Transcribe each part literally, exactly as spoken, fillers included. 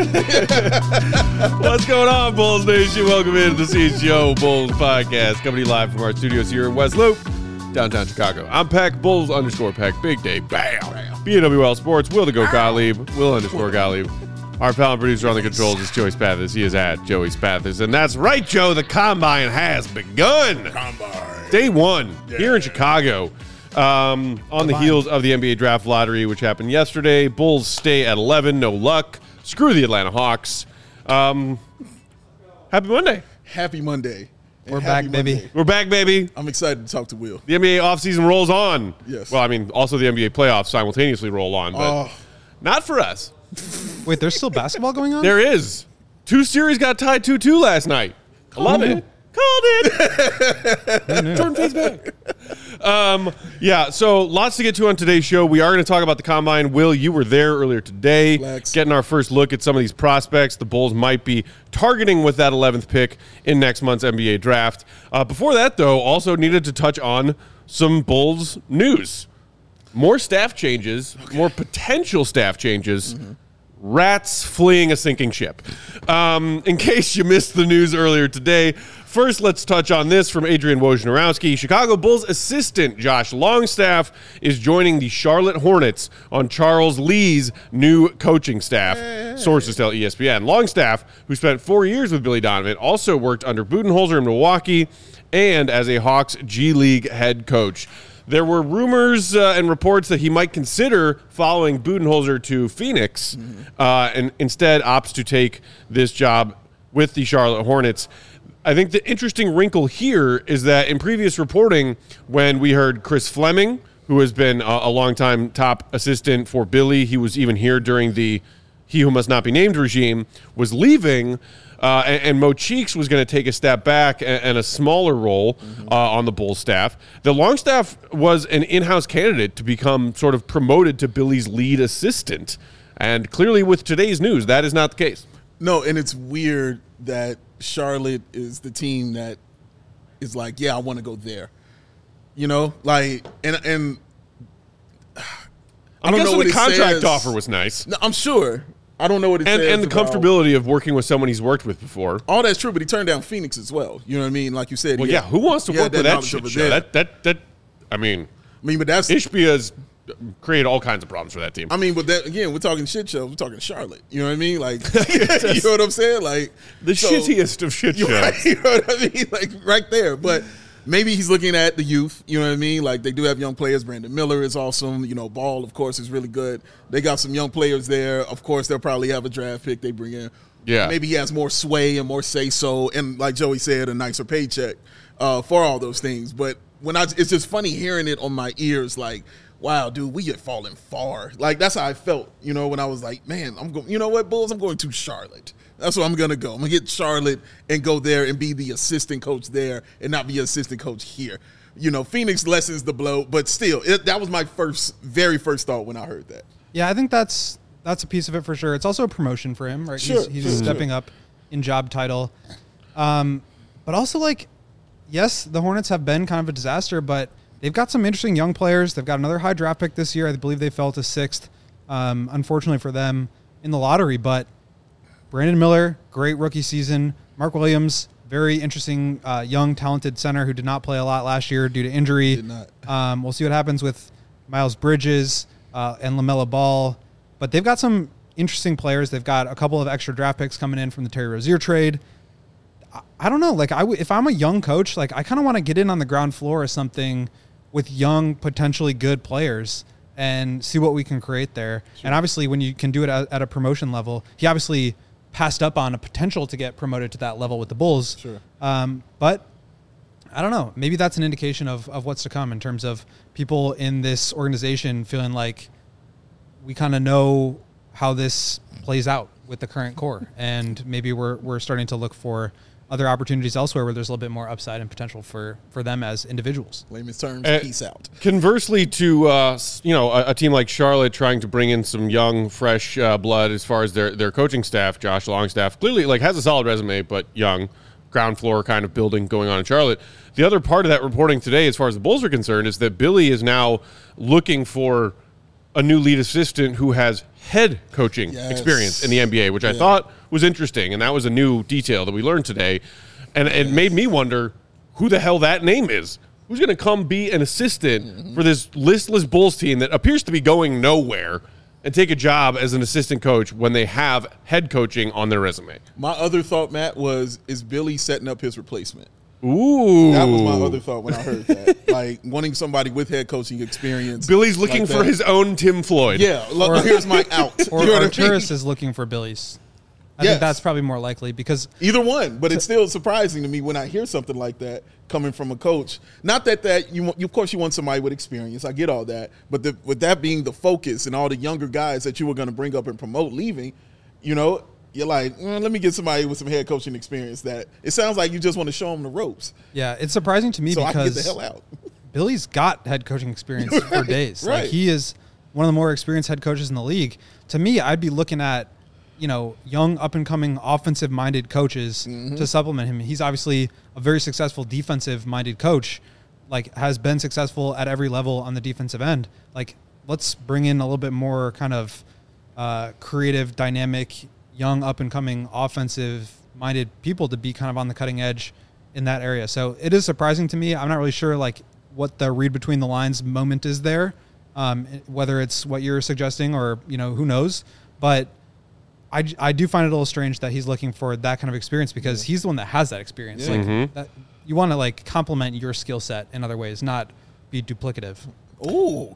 What's going on, Bulls Nation? Welcome into the C H G O Bulls podcast, coming live from our studios here in West Loop, downtown Chicago. I'm Peck, Bulls underscore Peck, Big Day, bam. B N W L Sports, Will the Go Gottlieb, Will underscore Gottlieb. Our pal and producer on the controls is Joey Spathis. He is at Joey Spathis. And that's right, Joe, the Combine has begun. Combine. Day one yeah. here in Chicago. Um, on the heels of the N B A draft lottery, which happened yesterday. Bulls stay at eleven, no luck. Screw the Atlanta Hawks. Um, happy Monday. Happy Monday. We're back, Monday. baby. We're back, baby. I'm excited to talk to Will. The N B A offseason rolls on. Yes. Well, I mean, also the N B A playoffs simultaneously roll on, but Oh. not for us. Wait, there's still basketball going on? There is. Two series got tied two two last night. I love it. Called it. Jordan fades back. Um, yeah, so lots to get to on today's show. We are going to talk about the Combine. Will, you were there earlier today, Flex. getting our first look at some of these prospects the Bulls might be targeting with that eleventh pick in next month's N B A draft. Uh, before that, though, also needed to touch on some Bulls news. More staff changes, okay. more potential staff changes. Mm-hmm. Rats fleeing a sinking ship. Um, in case you missed the news earlier today, first let's touch on this from Adrian Wojnarowski. Chicago Bulls assistant Josh Longstaff is joining the Charlotte Hornets on Charles Lee's new coaching staff, hey. Sources tell E S P N. Longstaff, who spent four years with Billy Donovan, also worked under Budenholzer in Milwaukee and as a Hawks G League head coach. There were rumors uh, and reports that he might consider following Budenholzer to Phoenix mm-hmm. uh, and instead opts to take this job with the Charlotte Hornets. I think the interesting wrinkle here is that in previous reporting, when we heard Chris Fleming, who has been a, a longtime top assistant for Billy, he was even here during the He Who Must Not Be Named regime, was leaving, Uh, and, and Mo Cheeks was going to take a step back and, and a smaller role mm-hmm. uh, on the Bulls staff. The Longstaff was an in-house candidate to become sort of promoted to Billy's lead assistant. And clearly with today's news, that is not the case. No, and it's weird that Charlotte is the team that is like, yeah, I want to go there. You know, like, and and I, I don't guess know what the contract says. offer was nice. No, I'm sure. I don't know what it and, says. And the about, comfortability of working with someone he's worked with before. All that's true, but he turned down Phoenix as well. You know what I mean? Like you said. Well, yeah, had, who wants to work with that shit show? That, that, that, I mean, I mean, but that's Ishbia's created all kinds of problems for that team. I mean, but that, again, we're talking shit shows. We're talking Charlotte. You know what I mean? Like, you know what I'm saying? Like the so, shittiest of shit shows. Right, you know what I mean? Like right there. But maybe he's looking at the youth. You know what I mean? Like they do have young players. Brandon Miller is awesome. You know, Ball, of course, is really good. They got some young players there. Of course, they'll probably have a draft pick they bring in. Yeah. Maybe he has more sway and more say-so, and like Joey said, a nicer paycheck uh, for all those things. But when I, it's just funny hearing it on my ears, like, wow, dude, we get falling far. Like that's how I felt, you know, when I was like, man, I'm going. You know what, Bulls? I'm going to Charlotte. That's where I'm gonna go. I'm gonna get Charlotte and go there and be the assistant coach there, and not be an assistant coach here. You know, Phoenix lessens the blow, but still, it, that was my first, very first thought when I heard that. Yeah, I think that's that's a piece of it for sure. It's also a promotion for him, right? Sure, he's he's sure, stepping sure. up in job title, um, but also like, yes, the Hornets have been kind of a disaster, but they've got some interesting young players. They've got another high draft pick this year. I believe they fell to sixth, um, unfortunately for them in the lottery. But Brandon Miller, great rookie season. Mark Williams, very interesting uh, young, talented center who did not play a lot last year due to injury. Did not. Um, we'll see what happens with Miles Bridges uh, and LaMelo Ball. But they've got some interesting players. They've got a couple of extra draft picks coming in from the Terry Rozier trade. I, I don't know. Like, I w- if I'm a young coach, like I kind of want to get in on the ground floor or something with young, potentially good players and see what we can create there. Sure. And obviously, when you can do it at, at a promotion level, he obviously passed up on a potential to get promoted to that level with the Bulls. Sure. Um, but I don't know. Maybe that's an indication of, of what's to come in terms of people in this organization feeling like we kind of know how this plays out with the current core. And maybe we're we're starting to look for other opportunities elsewhere where there's a little bit more upside and potential for, for them as individuals. Layman's terms, uh, peace out. Conversely to, uh, you know, a, a team like Charlotte trying to bring in some young, fresh uh, blood as far as their, their coaching staff, Josh Longstaff, clearly like has a solid resume, but young, ground floor kind of building going on in Charlotte. The other part of that reporting today, as far as the Bulls are concerned, is that Billy is now looking for a new lead assistant who has head coaching Yes. experience in the N B A, which I Yeah. thought was interesting, and that was a new detail that we learned today. And it made me wonder who the hell that name is. Who's going to come be an assistant Mm-hmm. for this listless Bulls team that appears to be going nowhere and take a job as an assistant coach when they have head coaching on their resume? My other thought, Matt, was is Billy setting up his replacement? Ooh. That was my other thought when I heard that. Like wanting somebody with head coaching experience. Billy's looking like for that. his own Tim Floyd. Yeah, look, here's my out. Or You know what I mean? Arturis is looking for Billy's. I Yes. think that's probably more likely because Either one, but it's still surprising to me when I hear something like that coming from a coach. Not that that you, want, you of course, you want somebody with experience. I get all that, but the, with that being the focus and all the younger guys that you were going to bring up and promote leaving, you know, you're like, mm, let me get somebody with some head coaching experience. That it sounds like you just want to show them the ropes, yeah, it's surprising to me so I can get because the hell out. Billy's got head coaching experience for Right, days. right. Like he is one of the more experienced head coaches in the league. To me, I'd be looking at, you know, young up and coming offensive minded coaches Mm-hmm. to supplement him. He's obviously a very successful defensive minded coach, like has been successful at every level on the defensive end. Like let's bring in a little bit more kind of uh, creative, dynamic, young up and coming offensive minded people to be kind of on the cutting edge in that area. So it is surprising to me. I'm not really sure like what the read between the lines moment is there, um, whether it's what you're suggesting or, you know, who knows. But I, I do find it a little strange that he's looking for that kind of experience because he's the one that has that experience. Yeah. Like Mm-hmm. that, you want to like complement your skill set in other ways, not be duplicative. Ooh.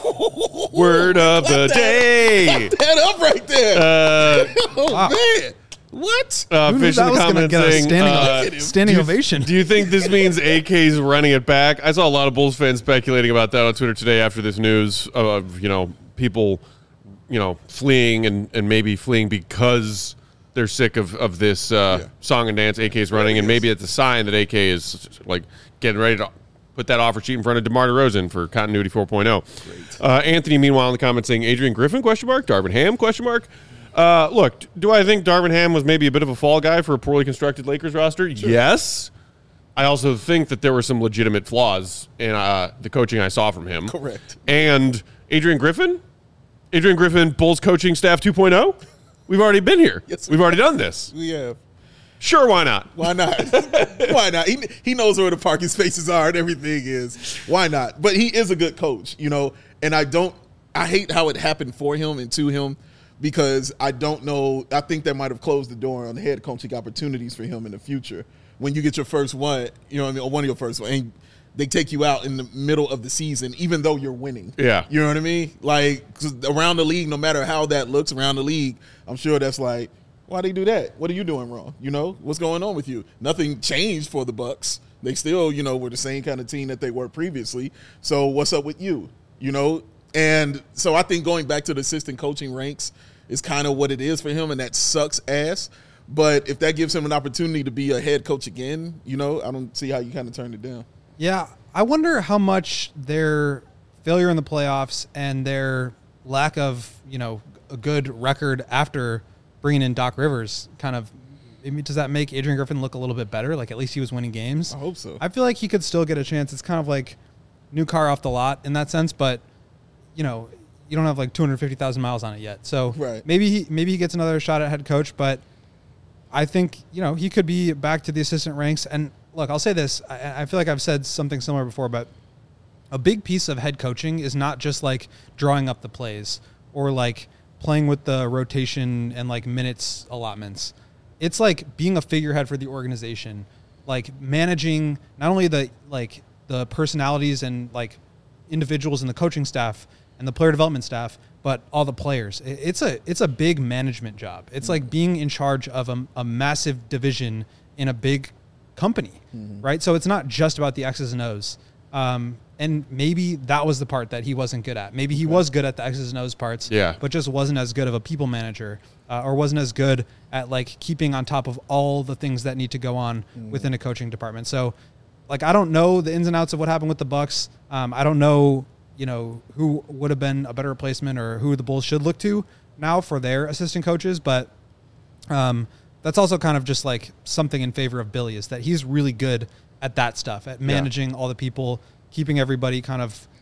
Word of the Clap that- day. clap that up right there. Uh, oh wow. man, what? uh, Who knew fish that in the was gonna comments get a saying, standing, uh, standing do you- ovation? Do you think this means A K's running it back? I saw a lot of Bulls fans speculating about that on Twitter today after this news of, you know, people, you know, fleeing and, and maybe fleeing because they're sick of, of this uh, Yeah. song and dance A K's running, it and is. maybe it's a sign that A K is, like, getting ready to put that offer sheet in front of DeMar DeRozan for Continuity four point oh. Uh, Anthony, meanwhile, in the comments saying, Adrian Griffin, question mark, Darvin Ham, question mark. Uh, look, do I think Darvin Ham was maybe a bit of a fall guy for a poorly constructed Lakers roster? Yes. I also think that there were some legitimate flaws in uh, the coaching I saw from him. Correct. And Adrian Griffin? Adrian Griffin, Bulls coaching staff two point oh? We've already been here. Yes, We've already done this. We have. Sure, why not? Why not? Why not? He, he knows where the parking spaces are and everything is. Why not? But he is a good coach, you know, and I don't, I hate how it happened for him and to him because I don't know, I think that might have closed the door on the head coaching opportunities for him in the future. When you get your first one, you know what I mean, or one of your first one, and they take you out in the middle of the season, even though you're winning. Yeah. You know what I mean? Like, 'cause around the league, no matter how that looks around the league, I'm sure that's like, why they do that? What are you doing wrong? You know, what's going on with you? Nothing changed for the Bucks. They still, you know, were the same kind of team that they were previously. So what's up with you? You know? And so I think going back to the assistant coaching ranks is kind of what it is for him, and that sucks ass. But if that gives him an opportunity to be a head coach again, you know, I don't see how you kind of turn it down. Yeah, I wonder how much their failure in the playoffs and their lack of, you know, a good record after bringing in Doc Rivers kind of, I mean, does that make Adrian Griffin look a little bit better? Like at least he was winning games. I hope so. I feel like he could still get a chance. It's kind of like new car off the lot in that sense, but you know, you don't have like two hundred fifty thousand miles on it yet. So Right. maybe he maybe he gets another shot at head coach, but I think, you know, he could be back to the assistant ranks. And look, I'll say this. I, I feel like I've said something similar before, but a big piece of head coaching is not just like drawing up the plays or like playing with the rotation and like minutes allotments. It's like being a figurehead for the organization, like managing not only the like the personalities and like individuals in the coaching staff and the player development staff, but all the players. It- It's a it's a big management job. It's like being in charge of a, a massive division in a big company, right? So it's not just about the X's and O's. Um, and maybe that was the part that he wasn't good at. Maybe he was good at the X's and O's parts, Yeah. but just wasn't as good of a people manager uh, or wasn't as good at like keeping on top of all the things that need to go on within a coaching department. So like, I don't know the ins and outs of what happened with the Bucks. Um, I don't know, you know, who would have been a better replacement or who the Bulls should look to now for their assistant coaches. But um, that's also kind of just like something in favor of Billy is that he's really good at that stuff, at managing all the people, keeping everybody kind of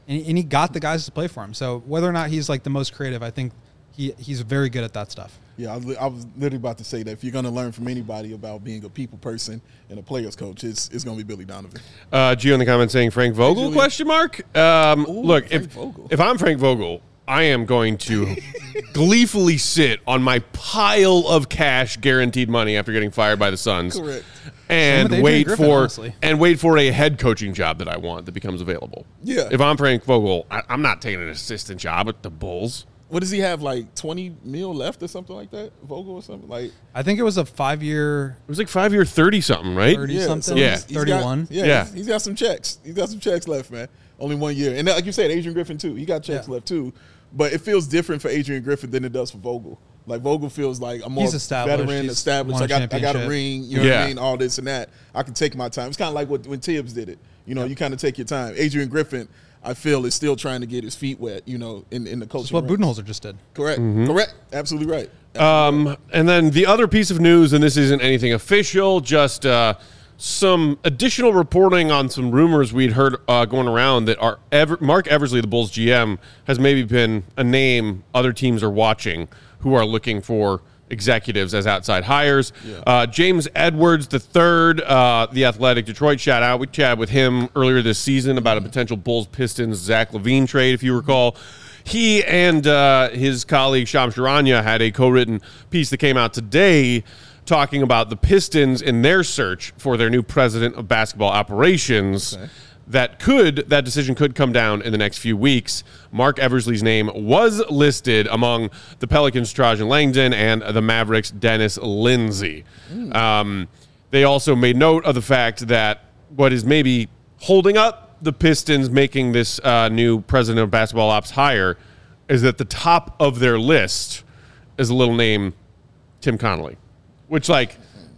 and, and he got the guys to play for him. So whether or not he's like the most creative, I think he he's very good at that stuff. Yeah, I was, I was literally about to say that if you're going to learn from anybody about being a people person and a player's coach, it's it's going to be Billy Donovan. Uh, Gio in the comments saying Frank Vogel, Julian. question mark? Um, Ooh, look, Frank if, Vogel. if I'm Frank Vogel, I am going to gleefully sit on my pile of cash guaranteed money after getting fired by the Suns. Correct. And Same with Adrian wait Griffin, for honestly. and wait for a head coaching job that I want that becomes available. Yeah. If I'm Frank Vogel, I, I'm not taking an assistant job at the Bulls. What does he have, like twenty mil left or something like that? Vogel or something? Like, I think it was a five-year, It was like five year thirty something, right? thirty yeah, something, so Yeah. he's- he's got- thirty-one. yeah, Yeah. He's, he's got some checks. He's got some checks left, man. Only one year. And like you said, Adrian Griffin, too. He got checks Yeah. left, too. But it feels different for Adrian Griffin than it does for Vogel. Like, Vogel feels like I'm more He's established. veteran, He's established. won I a got, I got a championship. ring, you know what Yeah. I mean? All this and that. I can take my time. It's kind of like what when Tibbs did it. You know, you kind of take your time. Adrian Griffin, I feel, is still trying to get his feet wet, you know, in, in the coaching That's what ranks. Budenholzer just did. Correct. Correct. Absolutely right. Um, and then the other piece of news, and this isn't anything official, just uh, some additional reporting on some rumors we'd heard uh, going around that our Ever- Mark Eversley, the Bulls G M, has maybe been a name other teams are watching who are looking for executives as outside hires. Yeah. Uh, James Edwards the third, uh, the Athletic Detroit, shout out. We chatted with him earlier this season about a potential Bulls Pistons Zach LaVine trade, if you recall. He and uh, his colleague Shams Charania had a co-written piece that came out today talking about the Pistons in their search for their new president of basketball operations. Okay. That could that decision could come down in the next few weeks. Mark Eversley's name was listed among the Pelicans' Trajan Langdon and the Mavericks' Dennis Lindsey. Mm. Um, they also made note of the fact that what is maybe holding up the Pistons making this uh, new president of basketball ops hire is that the top of their list is a little name Tim Connolly, which like.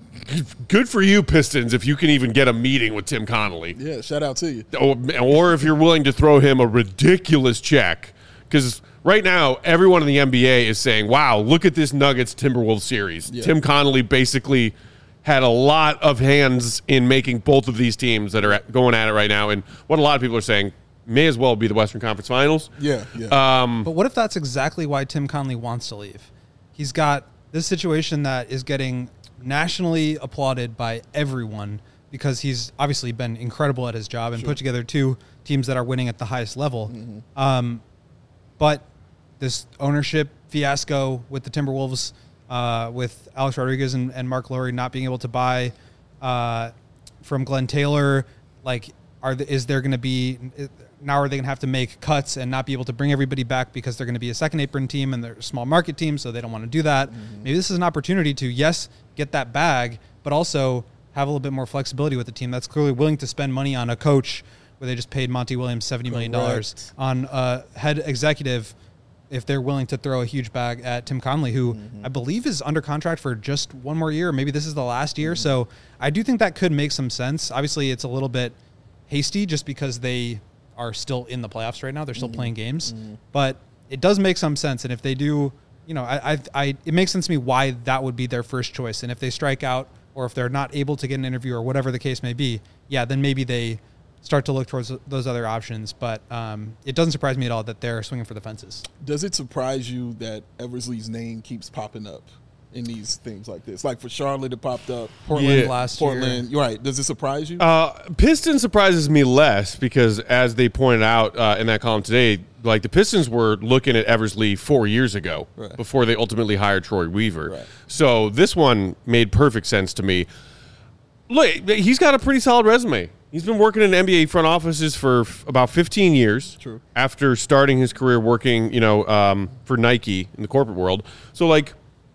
Good for you, Pistons, if you can even get a meeting with Tim Connolly. Yeah, shout out to you. Or, or if you're willing to throw him a ridiculous check. Because right now, everyone in the N B A is saying, wow, look at this Nuggets-Timberwolves series. Yeah. Tim Connolly basically had a lot of hands in making both of these teams that are at, going at it right now. And what a lot of people are saying may as well be the Western Conference Finals. Yeah, yeah. Um, But what if that's exactly why Tim Connolly wants to leave? He's got this situation that is getting nationally applauded by everyone because he's obviously been incredible at his job and Sure. put together two teams that are winning at the highest level. Mm-hmm. Um, but this ownership fiasco with the Timberwolves, uh, with Alex Rodriguez and, and Mark Lowry not being able to buy uh, from Glenn Taylor, like, are the, is there going to be now are they going to have to make cuts and not be able to bring everybody back because they're going to be a second apron team and they're a small market team, so they don't want to do that. Mm-hmm. Maybe this is an opportunity to, yes, get that bag, but also have a little bit more flexibility with the team that's clearly willing to spend money on a coach where they just paid Monty Williams seventy million dollars Correct. on a head executive if they're willing to throw a huge bag at Tim Connolly, who mm-hmm. I believe is under contract for just one more year. Maybe this is the last year. Mm-hmm. So I do think that could make some sense. Obviously, it's a little bit hasty just because they are still in the playoffs right now. They're still mm-hmm. playing games. Mm-hmm. But it does make some sense. And if they do, you know, I, I, I, it makes sense to me why that would be their first choice. And if they strike out or if they're not able to get an interview or whatever the case may be, yeah, then maybe they start to look towards those other options. But um, it doesn't surprise me at all that they're swinging for the fences. Does it surprise you that Eversley's name keeps popping up in these things like this? Like for Charlotte, it popped up. Portland Yeah. last Portland, year. you're right. Does it surprise you? Uh, Pistons surprises me less because, as they pointed out uh, in that column today, like the Pistons were looking at Eversley four years ago Right. before they ultimately hired Troy Weaver. Right. So this one made perfect sense to me. Look, he's got a pretty solid resume. He's been working in N B A front offices for f- about fifteen years. True. After starting his career working, you know, um, for Nike in the corporate world. So, like,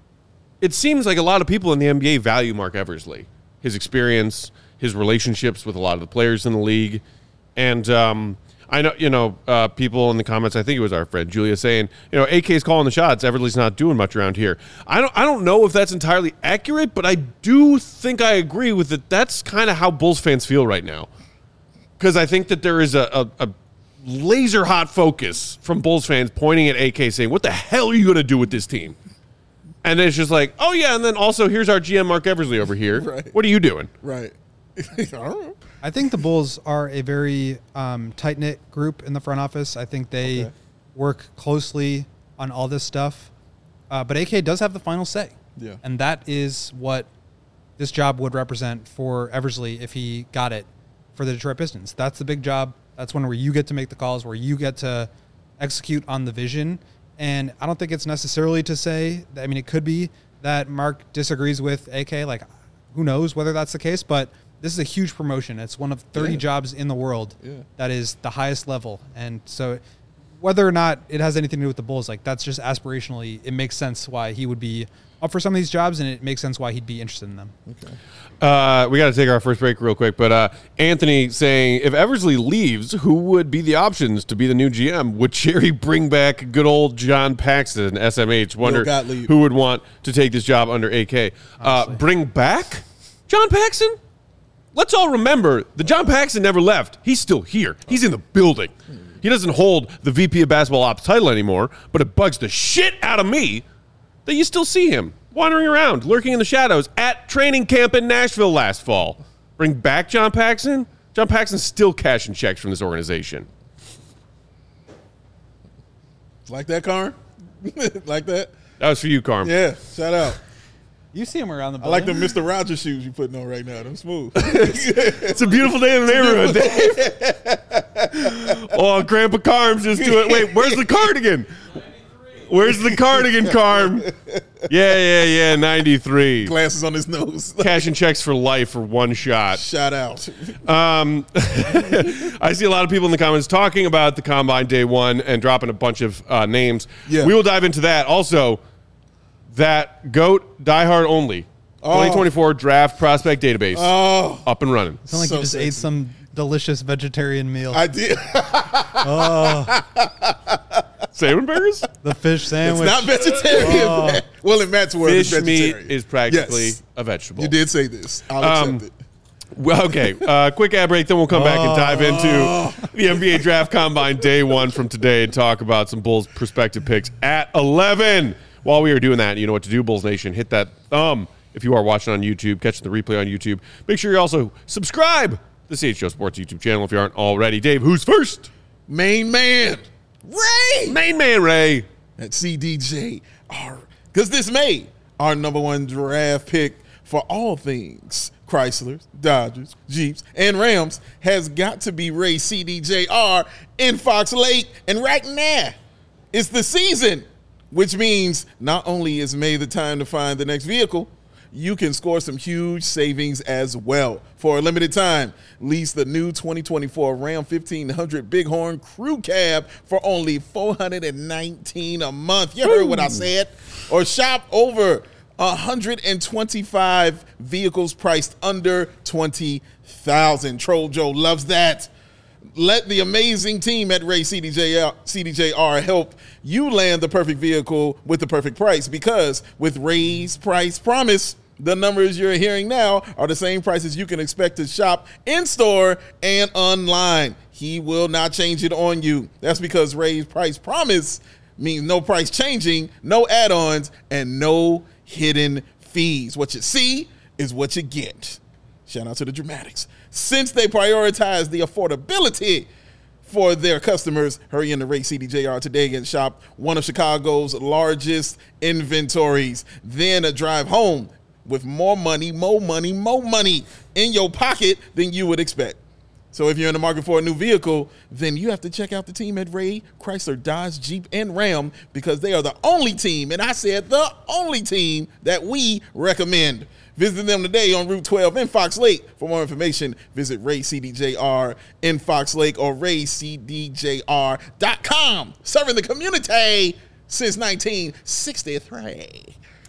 it seems like a lot of people in the N B A value Mark Eversley, his experience, his relationships with a lot of the players in the league. And um, I know, you know, uh, people in the comments, I think it was our friend Julia saying, you know, A K's calling the shots. Eversley's not doing much around here. I don't I don't know if that's entirely accurate, but I do think I agree with it. That's kind of how Bulls fans feel right now. Because I think that there is a, a, a laser hot focus from Bulls fans pointing at A K saying, what the hell are you going to do with this team? And then it's just like, oh, yeah, and then also here's our G M Mark Eversley over here. Right. What are you doing? right. I don't know. I think the Bulls are a very um, tight-knit group in the front office. I think they Okay. work closely on all this stuff. Uh, but A K does have the final say. Yeah. And that is what this job would represent for Eversley if he got it for the Detroit Pistons. That's the big job. That's one where you get to make the calls, where you get to execute on the vision. And I don't think it's necessarily to say, that, I mean, it could be that Mark disagrees with A K. Like, who knows whether that's the case, but this is a huge promotion. It's one of thirty Yeah. jobs in the world Yeah. that is the highest level. And so whether or not it has anything to do with the Bulls, like that's just aspirationally, it makes sense why he would be up for some of these jobs, and it makes sense why he'd be interested in them. Okay. Uh, we got to take our first break real quick, but uh, Anthony saying, if Eversley leaves, who would be the options to be the new G M? Would Cherry bring back good old John Paxson, S M H? Wonder Gottlieb. who would want to take this job under A K. Uh, bring back John Paxson? Let's all remember that John Paxson never left. He's still here. He's in the building. He doesn't hold the V P of Basketball Ops title anymore, but it bugs the shit out of me that you still see him wandering around, lurking in the shadows at training camp in Nashville last fall. Bring back John Paxson? John Paxson's still cashing checks from this organization. Like that, Karn? Like that? That was for you, Carm. Yeah, shout out. You see him around the I building. like the Mister Rogers shoes you putting on right now. Them smooth. It's a beautiful day in the neighborhood, Dave. Oh, Grandpa Carm's just doing. Wait, where's the cardigan? Where's the cardigan, Carm? Yeah, yeah, yeah, ninety-three. Glasses on his nose. Cashing checks for life for one shot. Shout out. Um, I see a lot of people in the comments talking about the Combine Day One and dropping a bunch of uh, names. Yeah. We will dive into that. Also, that GOAT diehard only twenty twenty-four draft prospect database Oh, up and running. It's not like so you just sexy. ate some delicious vegetarian meal. I did. Salmon burgers? the fish It's sandwich. not vegetarian. man. Well, in Matt's world, it's Fish meat vegetarian. is practically Yes. a vegetable. You did say this. I'll Um, accept it. Well, okay, uh, quick ad break, then we'll come back and dive into the N B A Draft Combine Day One from today and talk about some Bulls perspective picks at eleven. While we are doing that, you know what to do, Bulls Nation. Hit that thumb if you are watching on YouTube, catching the replay on YouTube. Make sure you also subscribe to the C H O Sports YouTube channel if you aren't already. Dave, who's first? Main man, Ray. Main man, Ray. At C D J R. Because this May, our number one draft pick for all things Chrysler, Dodgers, Jeeps, and Rams has got to be Ray C D J R in Fox Lake. And right now, it's the season, which means not only is May the time to find the next vehicle, you can score some huge savings as well. For a limited time, lease the new twenty twenty-four Ram fifteen hundred Bighorn Crew Cab for only four hundred nineteen dollars a month. You heard what I said. Or shop over one hundred twenty-five vehicles priced under twenty thousand dollars. Troll Joe loves that. Let the amazing team at Ray C D J R, C D J R help you land the perfect vehicle with the perfect price, because with Ray's Price Promise, the numbers you're hearing now are the same prices you can expect to shop in-store and online. He will not change it on you. That's because Ray's Price Promise means no price changing, no add-ons, and no hidden fees. What you see is what you get. Shout out to the Dramatics. Since they prioritize the affordability for their customers, hurry into Ray C D J R today and shop one of Chicago's largest inventories. Then a drive home with more money, more money, more money in your pocket than you would expect. So if you're in the market for a new vehicle, then you have to check out the team at Ray, Chrysler, Dodge, Jeep, and Ram, because they are the only team, and I said the only team, that we recommend. Visit them today on Route twelve in Fox Lake. For more information, visit Ray C D J R in Fox Lake or ray c d j r dot com. Serving the community since nineteen sixty-three.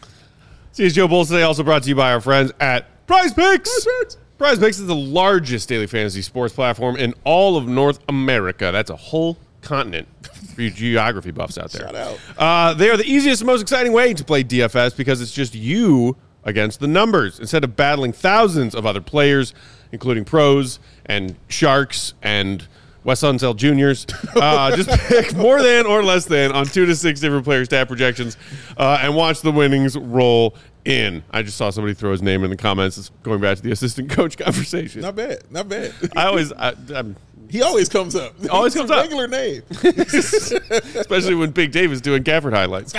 C H G O Bulls today also brought to you by our friends at Prize Picks. Prize Picks is the largest daily fantasy sports platform in all of North America. That's a whole continent for you geography buffs out there. Shout out. Uh, they are the easiest and most exciting way to play D F S, because it's just you against the numbers instead of battling thousands of other players, including pros and sharks and Wes Unseld Juniors. Uh, just pick more than or less than on two to six different player stat projections uh, and watch the winnings roll in. I just saw somebody throw his name in the comments. It's going back to the assistant coach conversation. Not bad. Not bad. I always, I, I'm, he always comes up. Always It's comes a up. regular name. especially when Big Dave is doing Gafford highlights.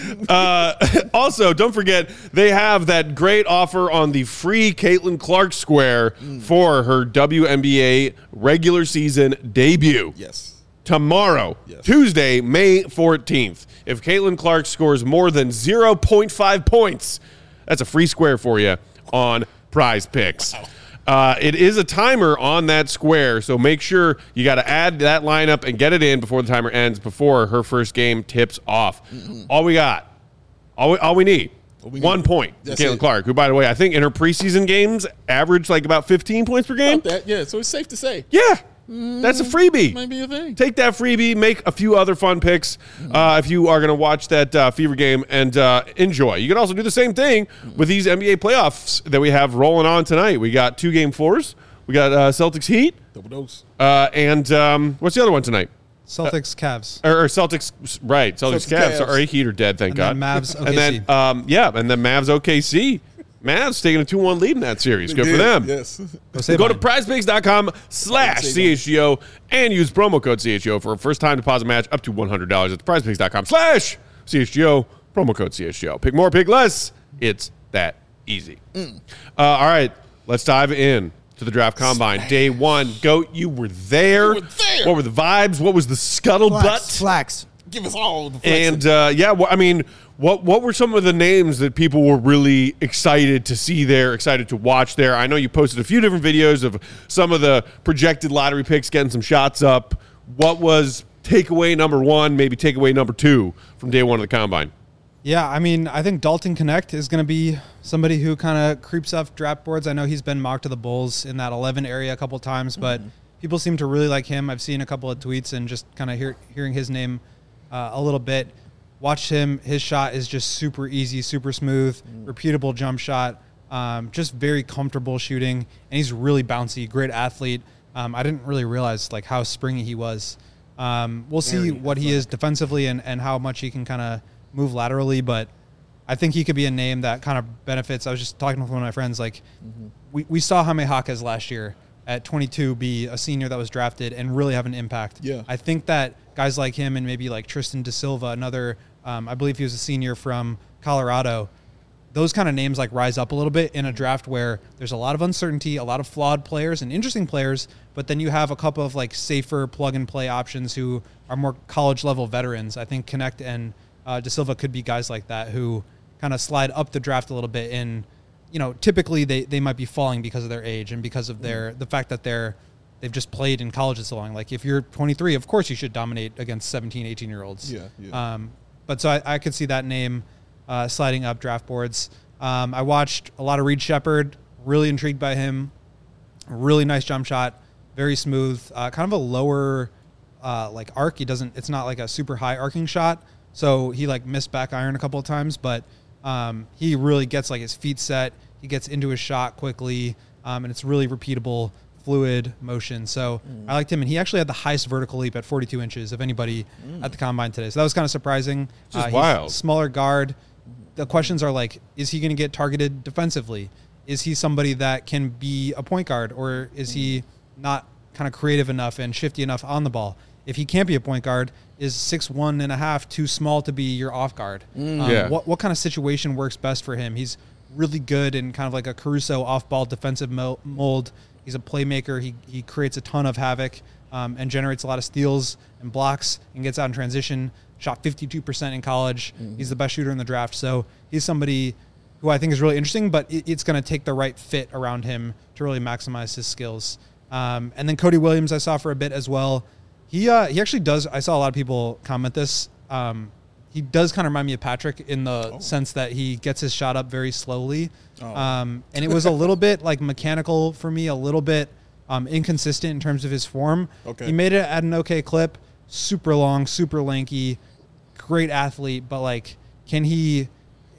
Uh, also, don't forget, they have that great offer on the free Caitlin Clark Square mm. for her W N B A regular season debut. Yes. Tomorrow, yes. Tuesday, May fourteenth. If Caitlin Clark scores more than zero point five points, that's a free square for you on Prize Picks. Wow. Uh, it is a timer on that square, so make sure you got to add that lineup and get it in before the timer ends, before her first game tips off. Mm-hmm. All we got, all we, all we need, we one need. point for Caitlin it. Clark, who, by the way, I think in her preseason games averaged like about fifteen points per game. About that, yeah, so it's safe to say. Yeah. That's a freebie. Might be a thing. Take that freebie, make a few other fun picks uh, if you are going to watch that uh, Fever game and uh, enjoy. You can also do the same thing with these N B A playoffs that we have rolling on tonight. We got two game fours. We got uh, Celtics Heat. Double dose. Uh, and um, what's the other one tonight? Celtics Cavs. Or, or Celtics, right. Celtics, Celtics Cavs. Cavs. Sorry, Heat are dead, thank and God. Then Mavs O K C. And then, um, yeah, and then Mavs O K C. Mavs taking a two one lead in that series. Good did, for them. Yes. Go, Go to prizepicks.com slash CHGO and use promo code C H G O for a first-time deposit match up to one hundred dollars. That's prizepicks.com slash CHGO, promo code C H G O. Pick more, pick less. It's that easy. Mm. Uh, all right, let's dive in to the draft combine. Day one. Goat, you were there. You were there. What were the vibes? What was the scuttlebutt? Flax. Flax. Give us all the flexing. And, uh, yeah, well, I mean, what what were some of the names that people were really excited to see there, excited to watch there? I know you posted a few different videos of some of the projected lottery picks getting some shots up. What was takeaway number one, maybe takeaway number two from day one of the combine? Yeah, I mean, I think Dalton Connect is going to be somebody who kind of creeps off draft boards. I know he's been mocked to the Bulls in that eleven area a couple times, but mm-hmm. people seem to really like him. I've seen a couple of tweets and just kind of hear, hearing his name uh, a little bit. Watch him. His shot is just super easy, super smooth, mm. repeatable jump shot, um, just very comfortable shooting, and he's really bouncy, great athlete. Um, I didn't really realize like how springy he was. Um, we'll very see what athletic. he is defensively and, and how much he can kind of move laterally, but I think he could be a name that kind of benefits. I was just talking with one of my friends, like mm-hmm. we, we saw Jaime Jaquez last year at twenty-two be a senior that was drafted and really have an impact. Yeah. I think that guys like him and maybe like Tristan Da Silva, another, um, I believe he was a senior from Colorado, those kind of names like rise up a little bit in a draft where there's a lot of uncertainty, a lot of flawed players and interesting players, but then you have a couple of like safer plug and play options who are more college level veterans. I think Connect and uh, Da Silva could be guys like that who kind of slide up the draft a little bit. And, you know, typically they, they might be falling because of their age and because of their, the fact that they're, they've just played in college so long. Like if you're twenty-three, of course you should dominate against seventeen, eighteen year olds. Yeah. yeah. Um, but so I, I could see that name uh, sliding up draft boards. Um, I watched a lot of Reed Shepherd, really intrigued by him. Really nice jump shot, very smooth, uh, kind of a lower uh, like arc. He doesn't, it's not like a super high arcing shot. So he like missed back iron a couple of times, but um, he really gets like his feet set. He gets into his shot quickly, um, and it's really repeatable, fluid motion. So mm. I liked him, and he actually had the highest vertical leap at forty-two inches of anybody mm. at the combine today. So that was kind of surprising. Just uh, wild. Smaller guard. The questions are like, is he going to get targeted defensively? Is he somebody that can be a point guard, or is mm. he not kind of creative enough and shifty enough on the ball? If he can't be a point guard, is six one and a half too small to be your off guard? Mm. Um, yeah. What what kind of situation works best for him? He's really good in kind of like a Caruso off ball defensive mo- mold. He's a playmaker. He he creates a ton of havoc um, and generates a lot of steals and blocks and gets out in transition. Shot fifty-two percent in college. Mm-hmm. He's the best shooter in the draft. So he's somebody who I think is really interesting, but it, it's going to take the right fit around him to really maximize his skills. Um, and then Cody Williams I saw for a bit as well. He uh, he actually does. I saw a lot of people comment this. Um, he does kind of remind me of Patrick in the oh. sense that he gets his shot up very slowly. Oh. Um, and it was a little bit like mechanical for me, a little bit um, inconsistent in terms of his form. Okay. He made it at an okay clip, super long, super lanky, great athlete, but like, can he,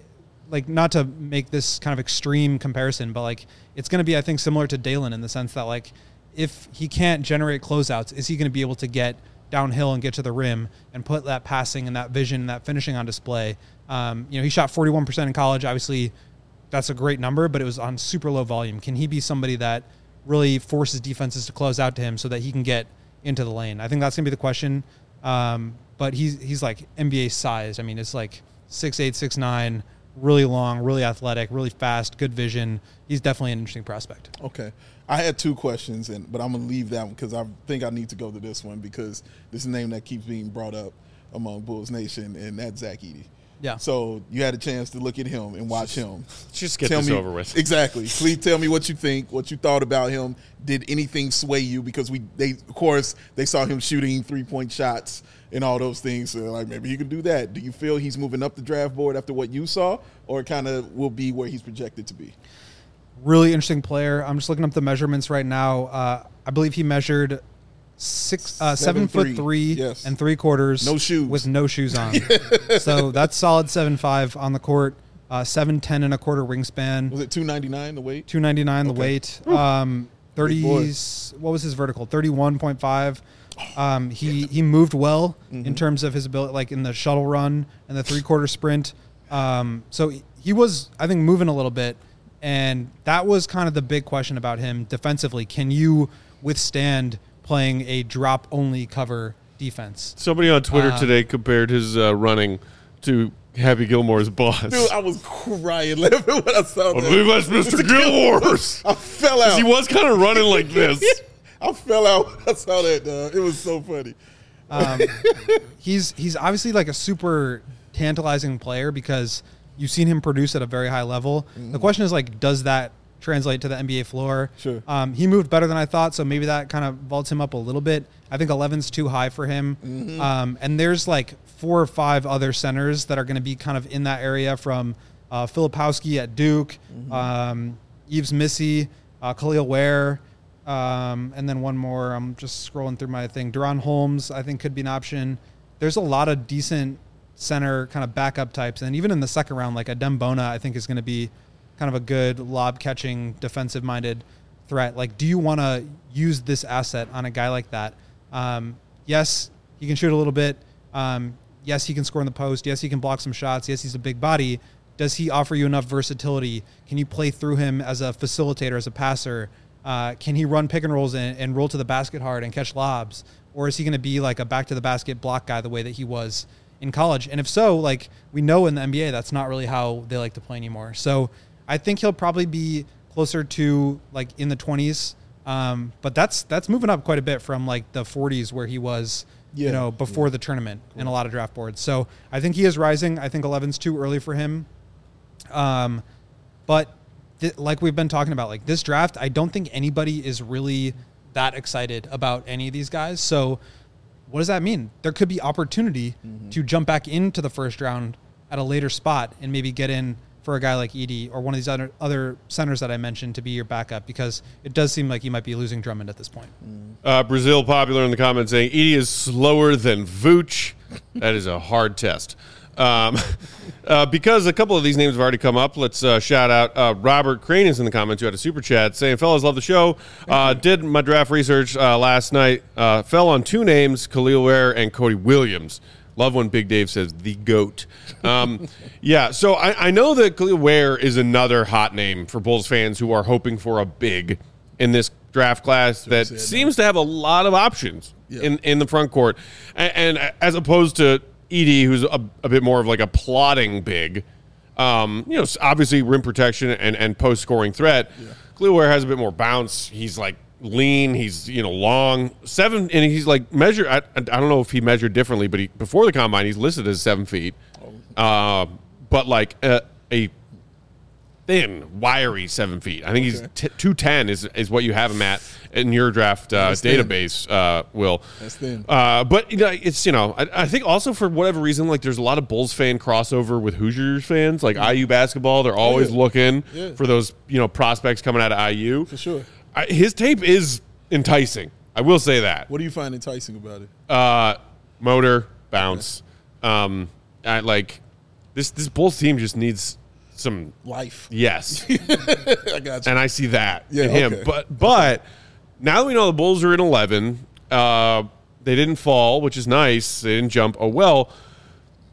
like, not to make this kind of extreme comparison, but like, it's going to be, I think, similar to Dalen in the sense that like, if he can't generate closeouts, is he going to be able to get downhill and get to the rim and put that passing and that vision and that finishing on display? Um, you know, he shot forty-one percent in college, obviously that's a great number, but it was on super low volume. Can he be somebody that really forces defenses to close out to him so that he can get into the lane? I think that's going to be the question. Um, but he's he's like N B A size. I mean, it's like six eight, six nine, really long, really athletic, really fast, good vision. He's definitely an interesting prospect. Okay. I had two questions, and but I'm going to leave that one because I think I need to go to this one because this is a name that keeps being brought up among Bulls Nation, and that's Zach Edey. Yeah. So you had a chance to look at him and watch him. Just get tell this me, over with. Exactly. Please tell me what you think, what you thought about him. Did anything sway you? Because we, they, of course, they saw him shooting three-point shots and all those things. So, like, maybe he could do that. Do you feel he's moving up the draft board after what you saw, or kind of will be where he's projected to be? Really interesting player. I'm just looking up the measurements right now. Uh, I believe he measured six, uh, seven, seven foot three yes. and three quarters, no shoes, with no shoes on. So that's solid seven five on the court. Uh, seven ten and a quarter wingspan. Was it two ninety-nine the weight? two ninety-nine okay. the weight. Um, thirties. What was his vertical? thirty-one point five. Um, he he moved well mm-hmm. in terms of his ability, like in the shuttle run and the three quarter sprint. Um, so he was, I think, moving a little bit. And that was kind of the big question about him defensively. Can you withstand playing a drop-only cover defense? Somebody on Twitter um, today compared his uh, running to Happy Gilmore's boss. Dude, I was crying laughing when I saw I that. believe that's Mister Gilmore's. I fell out. He was kind of running like this. I fell out when I saw that, dog. It was so funny. Um, he's he's obviously like a super tantalizing player because you've seen him produce at a very high level. Mm-hmm. The question is, like, does that translate to the N B A floor? Sure. Um, he moved better than I thought, so maybe that kind of vaults him up a little bit. I think eleven's too high for him. Mm-hmm. Um, and there's like four or five other centers that are going to be kind of in that area, from uh, Filipowski at Duke, mm-hmm. um, Yves Missy, uh, Khalil Ware, um, and then one more. I'm just scrolling through my thing. Deron Holmes, I think, could be an option. There's a lot of decent center kind of backup types, and even in the second round, like Adem Bona, I think is going to be kind of a good lob catching, defensive minded threat. Like, do you want to use this asset on a guy like that? Um, yes, he can shoot a little bit. Um, yes, he can score in the post. Yes, he can block some shots. Yes, he's a big body. Does he offer you enough versatility? Can you play through him as a facilitator, as a passer? Uh, can he run pick and rolls and, and roll to the basket hard and catch lobs? Or is he going to be like a back to the basket block guy the way that he was in college? And if so, like, we know in the N B A, that's not really how they like to play anymore. So I think he'll probably be closer to like in the twenties. Um, but that's, that's moving up quite a bit from like the forties where he was, yeah. you know, before yeah. the tournament cool. in a lot of draft boards. So I think he is rising. I think eleven's too early for him. Um, but th- like we've been talking about, like this draft, I don't think anybody is really that excited about any of these guys. So what does that mean? There could be opportunity mm-hmm. to jump back into the first round at a later spot and maybe get in for a guy like Edey or one of these other other centers that I mentioned to be your backup, because it does seem like you might be losing Drummond at this point. Mm. Uh, Brazil popular in the comments saying Edey is slower than Vooch. That is a hard test. Um, uh, because a couple of these names have already come up, let's uh, shout out uh, Robert Crane is in the comments who had a super chat saying, fellas, love the show. Uh, did my draft research uh, last night. Uh, fell on two names, Khalil Ware and Cody Williams. Love when Big Dave says the GOAT. Um, yeah, so I, I know that Khalil Ware is another hot name for Bulls fans who are hoping for a big in this draft class that seems to have a lot of options yeah. in, in the front court. And, and as opposed to Edey, who's a, a bit more of like a plotting big, um, you know, obviously rim protection and, and post-scoring threat. Yeah. Khalil Ware has a bit more bounce. He's like lean. He's, you know, long. Seven, and he's like measured. I, I don't know if he measured differently, but he, before the combine, he's listed as seven feet. Oh. Uh, but like a, a thin, wiry seven feet. I think okay. he's t- two ten is is what you have him at in your draft uh, database, uh, Will. That's thin. Uh, but you know, it's, you know, I, I think also for whatever reason, like there's a lot of Bulls fan crossover with Hoosiers fans, like I U basketball. They're always yeah. looking yeah. for those, you know, prospects coming out of I U. For sure. I, his tape is enticing. I will say that. What do you find enticing about it? Uh, motor, bounce. Yeah. Um, I, like this. This Bulls team just needs some life. Yes, I got you. And I see that yeah, in him. Okay. But but now that we know the Bulls are in eleven, uh, they didn't fall, which is nice. They didn't jump. Oh well.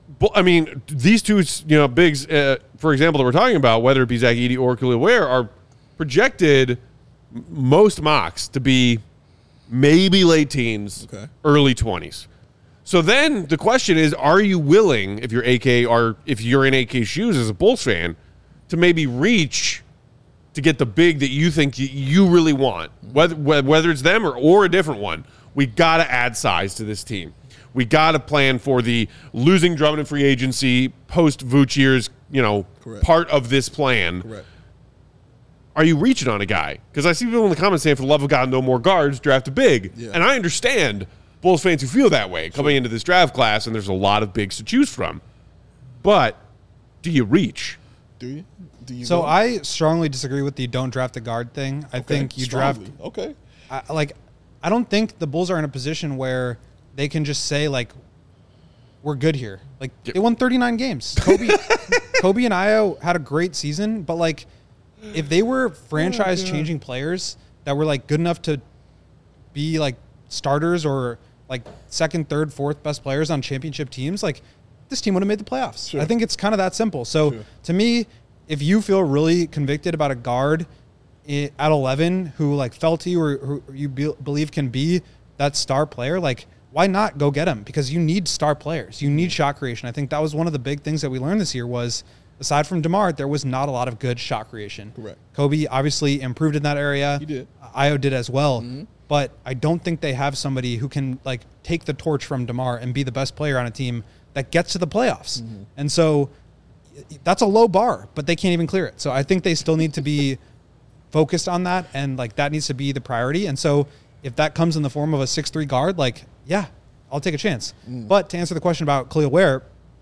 bu- I mean, these two, you know, bigs, uh, for example, that we're talking about, whether it be Zach Edey or Khalil Ware, are projected m- most mocks to be maybe late teens, Okay. early twenties. So then the question is, are you willing, if you're A K or if you're in A K's shoes as a Bulls fan, to maybe reach to get the big that you think y- you really want, whether whether it's them or, or a different one? We got to add size to this team. We got to plan for the losing Drummond in free agency, post Vooch years, you know, Correct. part of this plan. Correct. Are you reaching on a guy? Because I see people in the comments saying, for the love of God, no more guards, draft a big. Yeah. And I understand Bulls fans who feel that way coming into this draft class, and there's a lot of bigs to choose from. But do you reach? Do you? Do you? So go? I strongly disagree with the don't draft a guard thing. I Okay, think you strongly. draft Okay. I, like I don't think the Bulls are in a position where they can just say like we're good here. Like they won thirty-nine games. Kobe Kobe and Io had a great season, but like if they were franchise changing players that were like good enough to be like starters or like second, third, fourth best players on championship teams, like this team would have made the playoffs. Sure. I think it's kind of that simple. So Sure. to me, if you feel really convicted about a guard i- at eleven who like fell to you or who you be, believe can be that star player, like why not go get him? Because you need star players. You need shot creation. I think that was one of the big things that we learned this year was aside from DeMar, there was not a lot of good shot creation. Correct. Kobe obviously improved in that area. He did. Io did as well. Mm-hmm. But I don't think they have somebody who can like take the torch from DeMar and be the best player on a team that gets to the playoffs. Mm-hmm. And so that's a low bar, but they can't even clear it. So I think they still need to be focused on that, and like that needs to be the priority. And so if that comes in the form of a six three guard, like, yeah, I'll take a chance. Mm. But to answer the question about Khalil Ware,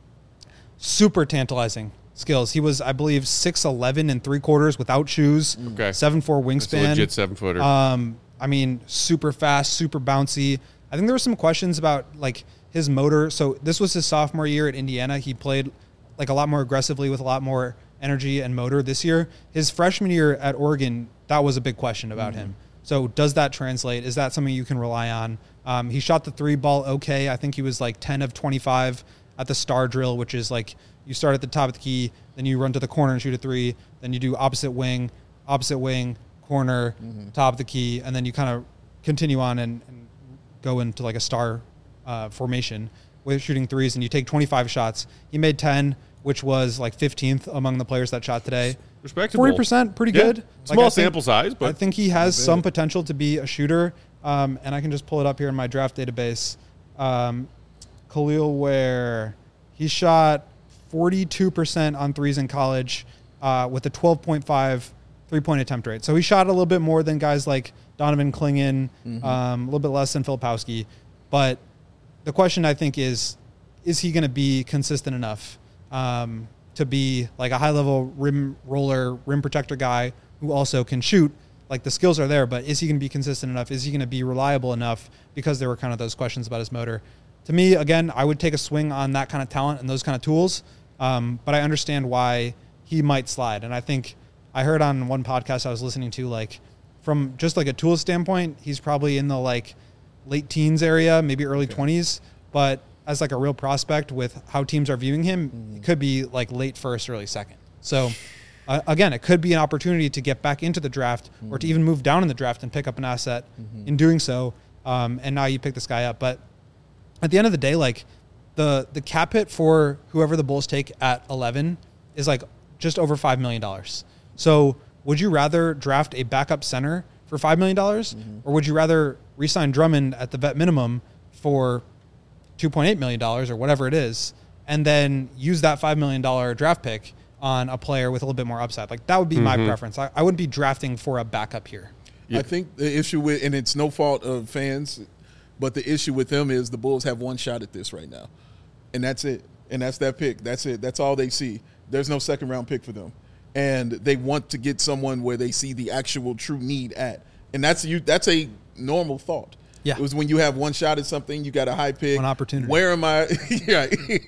super tantalizing skills. He was, I believe, six eleven and three quarters without shoes, Okay. seven four It's a wingspan. legit seven footer. Um, I mean, super fast, super bouncy. I think there were some questions about like his motor. So this was his sophomore year at Indiana. He played like a lot more aggressively with a lot more energy and motor this year. His freshman year at Oregon, that was a big question about Mm-hmm. him. So does that translate? Is that something you can rely on? Um, he shot the three ball okay. I think he was like ten of twenty-five at the star drill, which is like you start at the top of the key, then you run to the corner and shoot a three, then you do opposite wing, opposite wing, corner, Mm-hmm. top of the key, and then you kind of continue on and, and go into like a star uh, formation with shooting threes, and you take twenty-five shots. He made ten, which was like fifteenth among the players that shot today. Respectable. forty percent, pretty Yeah. good. Small I think- sample size, but I think he has bad. some potential to be a shooter. Um, and I can just pull it up here in my draft database. Um, Khalil Ware, he shot forty-two percent on threes in college uh, with a twelve point five three-point attempt rate. So he shot a little bit more than guys like Donovan Clingan, Mm-hmm. um, a little bit less than Filipowski. But the question I think is, is he going to be consistent enough um, to be like a high-level rim roller, rim protector guy who also can shoot? Like the skills are there, but is he going to be consistent enough? Is he going to be reliable enough? Because there were kind of those questions about his motor. To me, again, I would take a swing on that kind of talent and those kind of tools. Um, but I understand why he might slide. And I think I heard on one podcast I was listening to, like from just like a tool standpoint, he's probably in the like late teens area, maybe early twenties. But as like a real prospect with how teams are viewing him, Mm-hmm. it could be like late first, early second. So uh, again, it could be an opportunity to get back into the draft or to even move down in the draft and pick up an asset Mm-hmm. in doing so. Um, and now you pick this guy up. But at the end of the day, like the the cap hit for whoever the Bulls take at eleven is like just over five million dollars. So would you rather draft a backup center for five million dollars Mm-hmm. or would you rather re-sign Drummond at the vet minimum for two point eight million dollars or whatever it is, and then use that five million dollars draft pick on a player with a little bit more upside? Like that would be my preference. I, I wouldn't be drafting for a backup here. I think the issue with, and it's no fault of fans, but the issue with them is the Bulls have one shot at this right now, and that's it. And that's that pick. That's it. That's all they see. There's no second round pick for them, and they want to get someone where they see the actual true need at, and that's you. That's a normal thought. Yeah. It was when you have one shot at something, you got a high pick, One opportunity. Where am I? Yeah,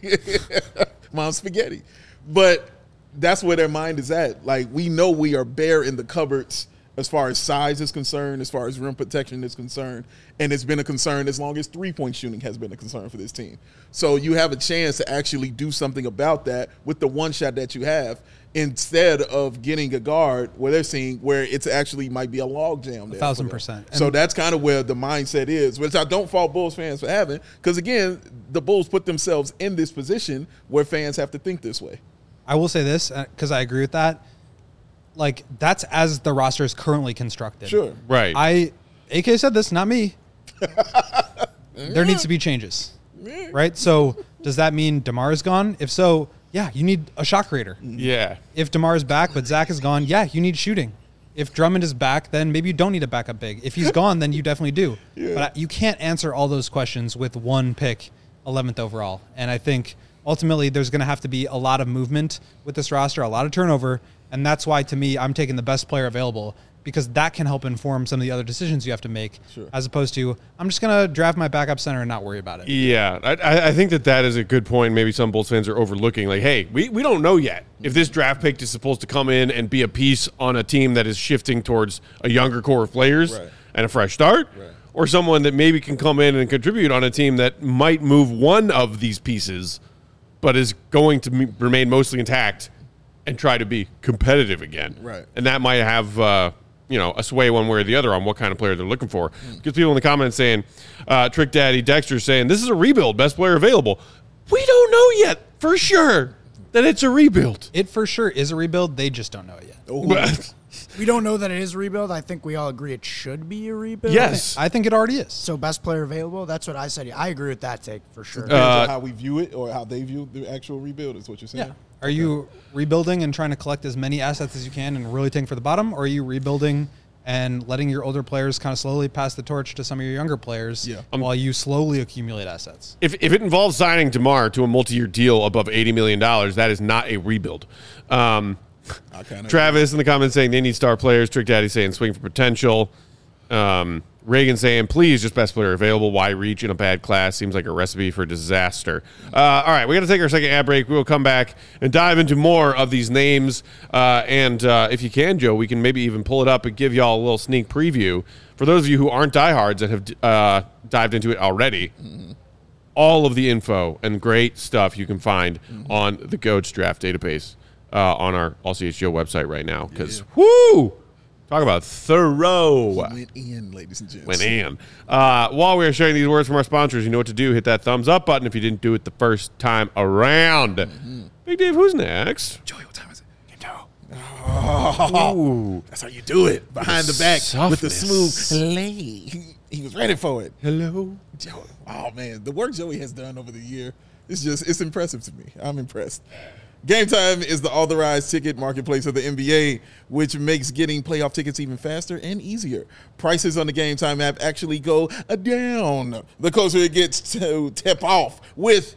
mom spaghetti, but that's where their mind is at. Like we know we are bare in the cupboards as far as size is concerned, as far as rim protection is concerned, and it's been a concern as long as three-point shooting has been a concern for this team. So you have a chance to actually do something about that with the one shot that you have, instead of getting a guard where they're seeing where it's actually might be a log jam there. A thousand percent. So that's kind of where the mindset is, which I don't fault Bulls fans for having, because again, the Bulls put themselves in this position where fans have to think this way. I will say this, because I agree with that. Like, that's as the roster is currently constructed. Sure. Right. I, A K said this, not me. There needs to be changes. Right? So does that mean DeMar is gone? If so, yeah, you need a shot creator. Yeah. If DeMar is back, but Zach is gone, yeah, you need shooting. If Drummond is back, then maybe you don't need a backup big. If he's gone, then you definitely do. Yeah. But you can't answer all those questions with one pick, eleventh overall. And I think ultimately there's going to have to be a lot of movement with this roster, a lot of turnover. And that's why, to me, I'm taking the best player available, because that can help inform some of the other decisions you have to make, Sure. as opposed to, I'm just going to draft my backup center and not worry about it. Yeah, I- I, I think that that is a good point. Maybe some Bulls fans are overlooking. Like, hey, we, we don't know yet if this draft pick is supposed to come in and be a piece on a team that is shifting towards a younger core of players Right. and a fresh start, Right. or someone that maybe can come in and contribute on a team that might move one of these pieces, but is going to m- remain mostly intact and try to be competitive again. Right. And that might have uh, you know, a sway one way or the other on what kind of player they're looking for. Mm. Because people in the comments saying, uh, Trick Daddy Dexter saying, this is a rebuild, best player available. We don't know yet for sure that it's a rebuild. It for sure is a rebuild. They just don't know it yet. Oh, We don't know that it is a rebuild. I think we all agree it should be a rebuild. Yes. I think it already is. So best player available. That's what I said. I agree with that take for sure. depends Uh, on how we view it or how they view the actual rebuild is what you're saying. Yeah. Are you rebuilding and trying to collect as many assets as you can and really tank for the bottom? Or are you rebuilding and letting your older players kind of slowly pass the torch to some of your younger players Yeah. while you slowly accumulate assets? If, if it involves signing DeMar to a multi-year deal above eighty million dollars, that is not a rebuild. Um, I kinda Travis in the comments saying they need star players. Trick Daddy saying swing for potential. Um, Reagan saying, please, just best player available. Why reach in a bad class? Seems like a recipe for disaster. Uh, all right, we got to take our second ad break. We will come back and dive into more of these names. Uh, and uh, if you can, Joe, we can maybe even pull it up and give y'all a little sneak preview. For those of you who aren't diehards and have uh, dived into it already, mm-hmm. all of the info and great stuff you can find mm-hmm. on the Goats Draft database uh, on our All C H G O website right now. Because, yeah. whoo! Talk about thorough. He went in, ladies and gents. Went in. Uh, while we are sharing these words from our sponsors, you know what to do. Hit that thumbs up button if you didn't do it the first time around. Mm-hmm. Big Dave, who's next? Joey, what time is it? You know. Oh, that's how you do it. Behind the, the back softness. With the smooth lay. He, he was ready for it. Hello. Joey. Oh, man. The work Joey has done over the year, it's just, it's impressive to me. I'm impressed. Game Time is the authorized ticket marketplace of the N B A, which makes getting playoff tickets even faster and easier. Prices on the Game Time app actually go down the closer it gets to tip off with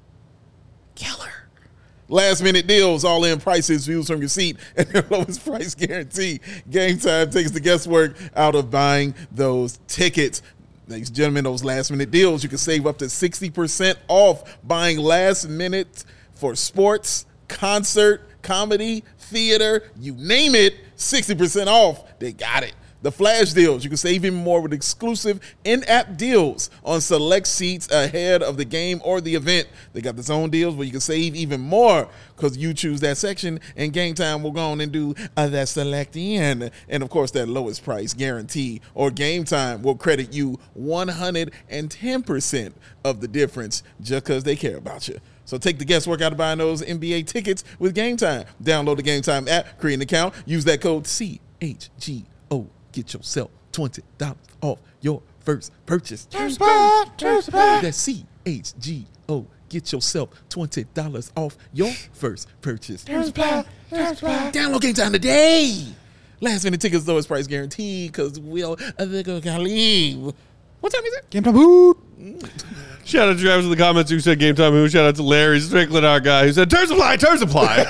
killer last-minute deals, all-in prices, views from your seat, and their lowest price guarantee. Game Time takes the guesswork out of buying those tickets. Ladies and gentlemen, those last-minute deals, you can save up to sixty percent off buying last-minute for sports, concert, comedy, theater, you name it, sixty percent off. They got it. The flash deals, you can save even more with exclusive in-app deals on select seats ahead of the game or the event. They got the zone deals where you can save even more because you choose that section, and Game Time will go on and do uh, that select in. And, of course, that lowest price guarantee or Game Time will credit you one hundred ten percent of the difference just because they care about you. So take the guesswork out of buying those N B A tickets with Game Time. Download the Game Time app, create an account, use that code C H G O. Get yourself twenty dollars off your first purchase. That's C H G O. Get yourself twenty dollars off your first purchase. Download Game Time today. Last minute tickets, lowest price guaranteed because we'll leave. What time is it? Game Time Hoot. Shout out to Travis in the comments who said Game Time Who. Shout out to Larry Strickland, our guy, who said, turn supply, turn supply.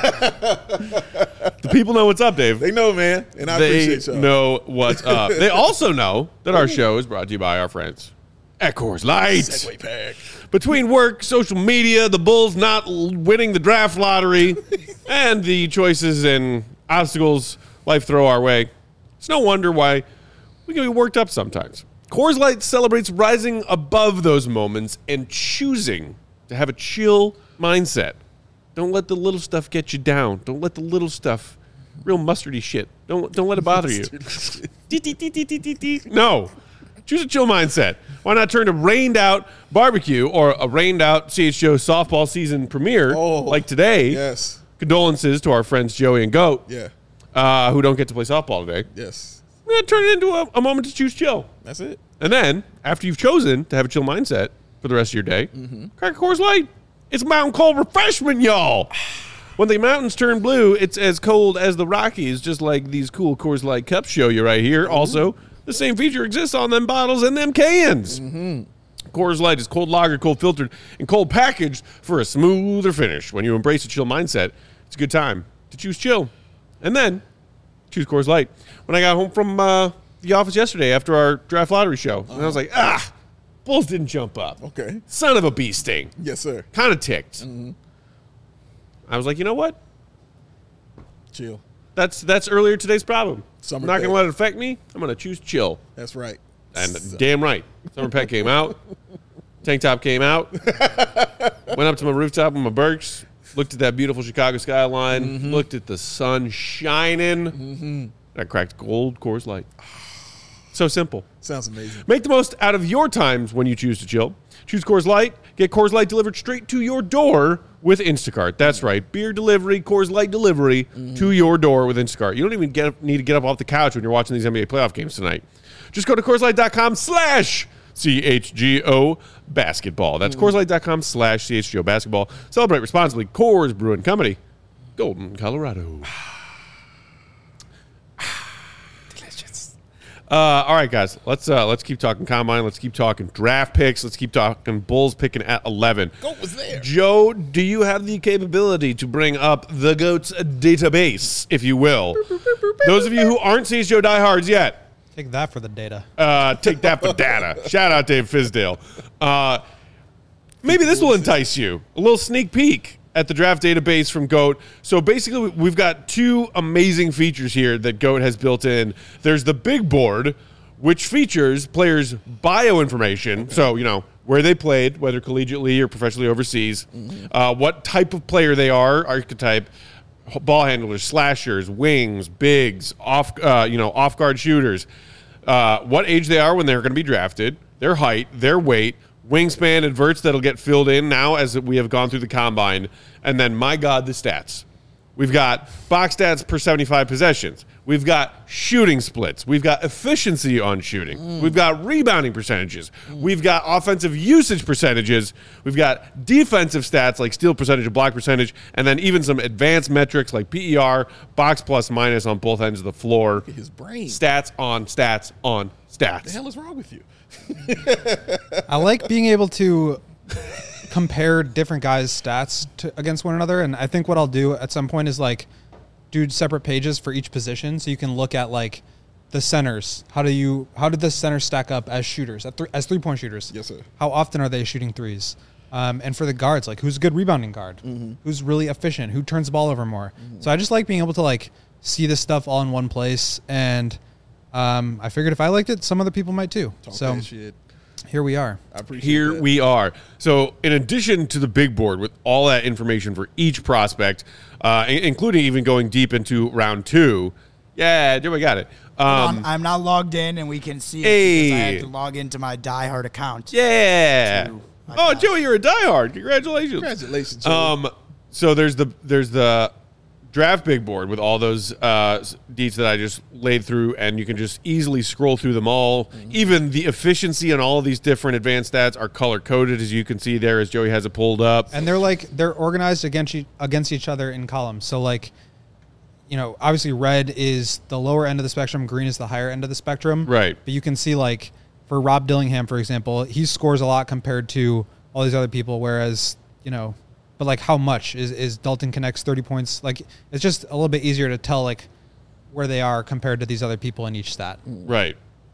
The people know what's up, Dave. They know, man. And I they appreciate y'all. know what's up. They also know that our show is brought to you by our friends at Coors Light. Segway pack. Between work, social media, the Bulls not winning the draft lottery, and the choices and obstacles life throw our way, It's no wonder why we can be worked up sometimes. Coors Light celebrates rising above those moments and choosing to have a chill mindset. Don't let the little stuff get you down. Don't let the little stuff, real mustardy shit, don't don't let it bother you. No. Choose a chill mindset. Why not turn to rained out barbecue or a rained out C H G O softball season premiere Oh, like today? Yes. Condolences to our friends Joey and Goat, Yeah. uh, who don't get to play softball today. Yes. We're going to turn it into a, a moment to choose chill. That's it. And then, after you've chosen to have a chill mindset for the rest of your day, Mm-hmm. crack a Coors Light. It's mountain cold refreshment, y'all. When the mountains turn blue, it's as cold as the Rockies, just like these cool Coors Light cups show you right here. Mm-hmm. Also, the same feature exists on them bottles and them cans. Mm-hmm. Coors Light is cold lagered, cold filtered, and cold packaged for a smoother finish. When you embrace a chill mindset, it's a good time to choose chill. And then, choose Coors Light. When I got home from uh, the office yesterday after our draft lottery show, and I was like, ah, Bulls didn't jump up. Okay. Son of a bee sting. Yes, sir. Kind of ticked. I was like, you know what? Chill. That's that's earlier today's problem. Summer I'm not going pet. to let it affect me. I'm going to choose chill. That's right. And So- damn right. Summer Pet came out. Tank top came out. Went up to my rooftop with my Berks. Looked at that beautiful Chicago skyline. Looked at the sun shining. And I cracked gold Coors Light. So simple. Sounds amazing. Make the most out of your times when you choose to chill. Choose Coors Light. Get Coors Light delivered straight to your door with Instacart. That's right. Beer delivery, Coors Light delivery to your door with Instacart. You don't even get, need to get up off the couch when you're watching these N B A playoff games tonight. Just go to CoorsLight.com slash CHGO basketball. That's CoorsLight.com slash CHGO basketball. Celebrate responsibly. Coors Brewing Company, Golden, Colorado. Uh, all right, guys. Let's uh, let's keep talking combine. Let's keep talking draft picks. Let's keep talking Bulls picking at eleven. Goat was there. Joe, do you have the capability to bring up the GOAT's database, if you will? Those of you who aren't C H G O diehards yet, Take that for the data. uh, take that for data. Shout out Dave Fizdale. Uh, maybe this will entice you. A little sneak peek at the draft database from GOAT. So basically, we've got two amazing features here that GOAT has built in. There's the big board, which features players' bio information. Okay. So, you know, where they played, whether collegiately or professionally overseas, mm-hmm. uh, what type of player they are, archetype, ball handlers, slashers, wings, bigs, off, uh, you know, off-guard shooters, uh, what age they are when they're going to be drafted, their height, their weight, wingspan adverts that'll get filled in now as we have gone through the combine. And then, my God, the stats. We've got box stats per seventy-five possessions. We've got shooting splits. We've got efficiency on shooting. Mm. We've got rebounding percentages. Mm. We've got offensive usage percentages. We've got defensive stats like steal percentage and block percentage. And then even some advanced metrics like P E R, box plus minus on both ends of the floor. Look at his brain. Stats on stats on stats. What the hell is wrong with you? I like being able to compare different guys' stats to, against one another. And I think what I'll do at some point is like do separate pages for each position, so you can look at like the centers. How do you how did the centers stack up as shooters, at th- as three point shooters? Yes, sir. How often are they shooting threes? Um, and for the guards, like who's a good rebounding guard? Mm-hmm. Who's really efficient? Who turns the ball over more? Mm-hmm. So I just like being able to like see this stuff all in one place. And um, I figured if I liked it, some other people might too. Talk so that shit. Here we are. I appreciate Here that. we are. So, in addition to the big board with all that information for each prospect, uh, in- including even going deep into round two, yeah, Joey got it. Um, I'm, I'm not logged in, and we can see it Hey. because I had to log into my diehard account. yeah. To- Oh, Joey, you're a diehard. Congratulations. Congratulations, Joey. Um, so there's the there's the draft big board with all those uh, deets that I just laid through, and you can just easily scroll through them all. Mm-hmm. Even the efficiency on all of these different advanced stats are color coded, as you can see there, as Joey has it pulled up. And they're like they're organized against each, against each other in columns. So like, you know, obviously red is the lower end of the spectrum, green is the higher end of the spectrum. Right. But you can see like for Rob Dillingham, for example, he scores a lot compared to all these other people, whereas, you know, but like how much is, is Dalton Connect's thirty points? Like it's just a little bit easier to tell like where they are compared to these other people in each stat. Right.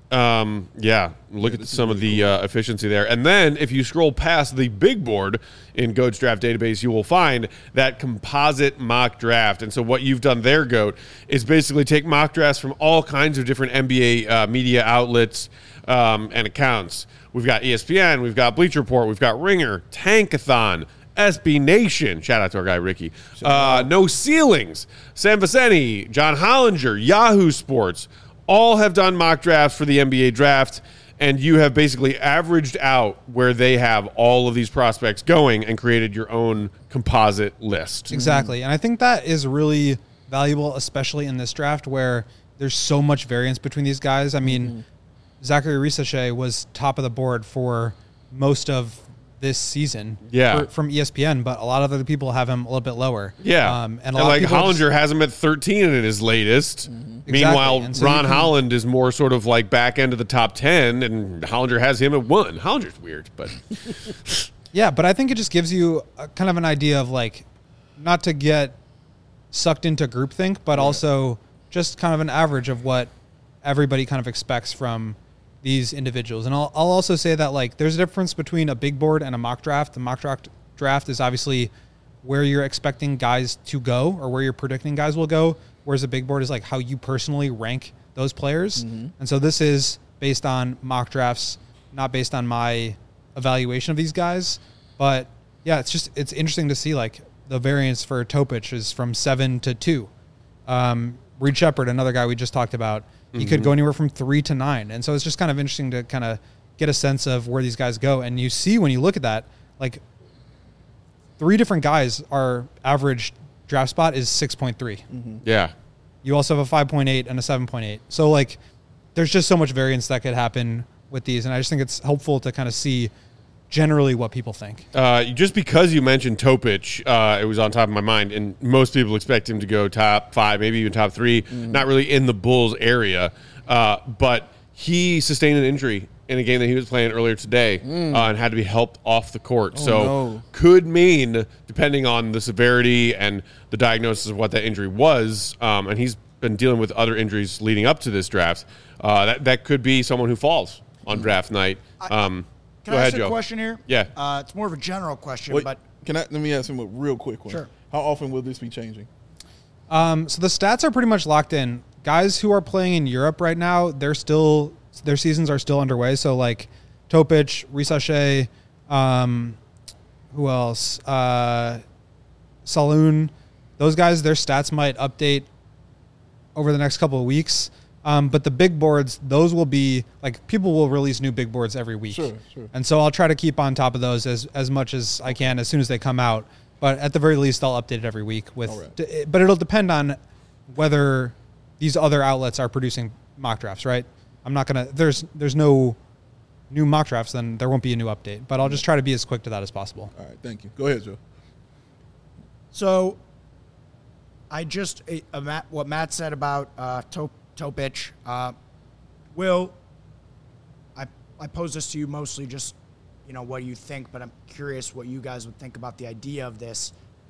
Um, yeah, look at some of the uh, efficiency there. And then if you scroll past the big board in Goat's draft database, you will find that composite mock draft. And so what you've done there, Goat, is basically take mock drafts from all kinds of different N B A uh, media outlets um, and accounts. We've got E S P N, we've got Bleacher Report, we've got Ringer, Tankathon, S B Nation. Shout out to our guy, Ricky. Uh, no Ceilings, Sam Viceni, John Hollinger, Yahoo Sports, all have done mock drafts for the N B A draft, and you have basically averaged out where they have all of these prospects going and created your own composite list. Exactly. And I think that is really valuable, especially in this draft where there's so much variance between these guys. I mean, mm-hmm. Zachary Risachet was top of the board for most of this season yeah. for, from E S P N, but a lot of other people have him a little bit lower. Yeah. Um, and, a and lot like of people Hollinger just, has him at thirteen in his latest. Mm-hmm. Meanwhile, exactly. so Ron can, Holland is more sort of like back end of the top ten, and Hollinger has him at one. Hollinger's weird, but yeah, but I think it just gives you a, kind of an idea of like, not to get sucked into groupthink, but yeah. also just kind of an average of what everybody kind of expects from these individuals. And I'll, I'll also say that like there's a difference between a big board and a mock draft. The mock draft draft is obviously where you're expecting guys to go or where you're predicting guys will go, whereas a big board is like how you personally rank those players. Mm-hmm. And so this is based on mock drafts, not based on my evaluation of these guys. But yeah, it's just, it's interesting to see like the variance for Topic is from seven to two. Um, Reed Shepherd, another guy we just talked about, he mm-hmm. could go anywhere from three to nine. And so it's just kind of interesting to kind of get a sense of where these guys go. And you see when you look at that, like three different guys, our average draft spot is six point three. Mm-hmm. Yeah. You also have a five point eight and a seven point eight. So like there's just so much variance that could happen with these. And I just think it's helpful to kind of see generally what people think. Uh, just because you mentioned Topic, uh, it was on top of my mind, and most people expect him to go top five, maybe even top three, mm-hmm. not really in the Bulls area. Uh, but he sustained an injury in a game that he was playing earlier today mm. uh, and had to be helped off the court. Oh, so no. could mean, depending on the severity and the diagnosis of what that injury was, um, and he's been dealing with other injuries leading up to this draft, uh, that, that could be someone who falls on draft night. Um, Can Go I ahead, ask Joe. a question here? Yeah. Uh, it's more of a general question, Wait, but can I let me ask him a real quick one? Sure. How often will this be changing? Um, so the stats are pretty much locked in. Guys who are playing in Europe right now, they're still their seasons are still underway. So like Topic, Risachet, um, who else? Uh, Saloon. Those guys, their stats might update over the next couple of weeks. Um, but the big boards, those will be like people will release new big boards every week. Sure, sure. And so I'll try to keep on top of those as, as much as I can as soon as they come out. But at the very least, I'll update it every week with, right. d- but it'll depend on whether these other outlets are producing mock drafts, right? I'm not going to, there's, there's no new mock drafts, then there won't be a new update, but I'll just try to be as quick to that as possible. All right. Thank you. Go ahead, Joe. So I just, uh, Matt, what Matt said about uh, Top. Topic, uh, Will, I I pose this to you mostly just, you know, what you think, but I'm curious what you guys would think about the idea of this.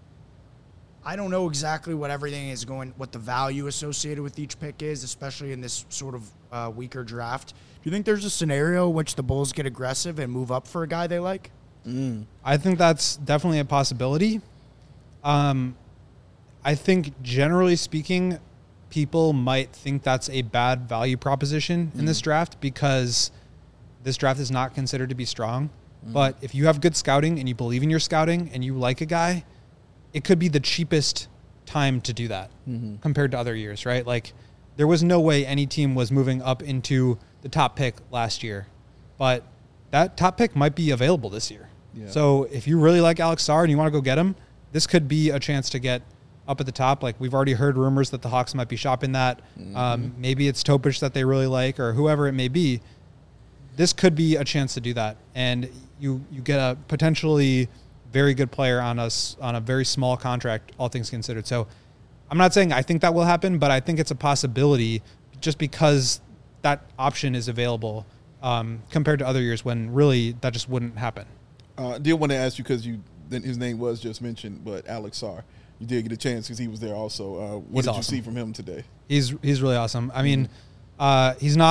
I don't know exactly what everything is going, what the value associated with each pick is, especially in this sort of uh, weaker draft. Do you think there's a scenario in which the Bulls get aggressive and move up for a guy they like? Mm. I think that's definitely a possibility. Um, I think generally speaking, people might think that's a bad value proposition in mm. this draft because this draft is not considered to be strong. Mm. But if you have good scouting and you believe in your scouting and you like a guy, it could be the cheapest time to do that mm-hmm. compared to other years, right? Like there was no way any team was moving up into the top pick last year, but that top pick might be available this year. Yeah. So if you really like Alex Sarr and you want to go get him, this could be a chance to get up at the top. Like we've already heard rumors that the Hawks might be shopping that. Mm-hmm. Um, maybe it's Topic that they really like or whoever it may be. This could be a chance to do that. And you, you get a potentially very good player on us on a very small contract, all things considered. So I'm not saying I think that will happen, but I think it's a possibility just because that option is available um, compared to other years when really that just wouldn't happen. Uh, I did want to ask you because you, his name was just mentioned, but Alex Sarr. You did get a chance because he was there also. Uh, what he's did awesome. you see from him today? He's he's really awesome. I mean, uh, he's not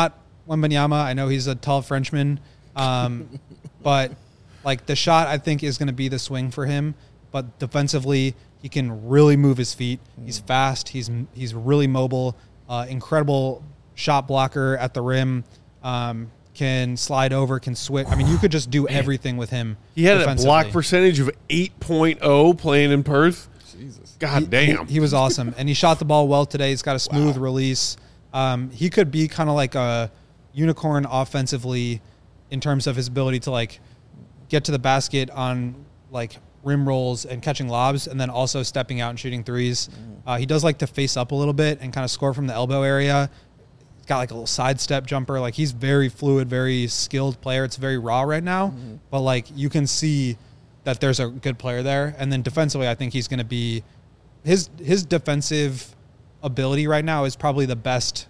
Wembanyama. I know he's a tall Frenchman, um, but like the shot, I think is going to be the swing for him. But defensively, he can really move his feet. He's fast. He's he's really mobile. Uh, incredible shot blocker at the rim. Um, can slide over. Can switch. I mean, you could just do everything with him. He had a block percentage of eight point oh playing in Perth. Jesus. God he, damn. He, he was awesome, and he shot the ball well today. He's got a smooth wow. release. Um, he could be kind of like a unicorn offensively in terms of his ability to like get to the basket on like rim rolls and catching lobs, and then also stepping out and shooting threes. Uh, he does like to face up a little bit and kind of score from the elbow area. He's got like a little sidestep jumper. Like he's very fluid, very skilled player. It's very raw right now, mm-hmm. but like you can see that there's a good player there. And then defensively, I think he's going to be his his defensive ability right now is probably the best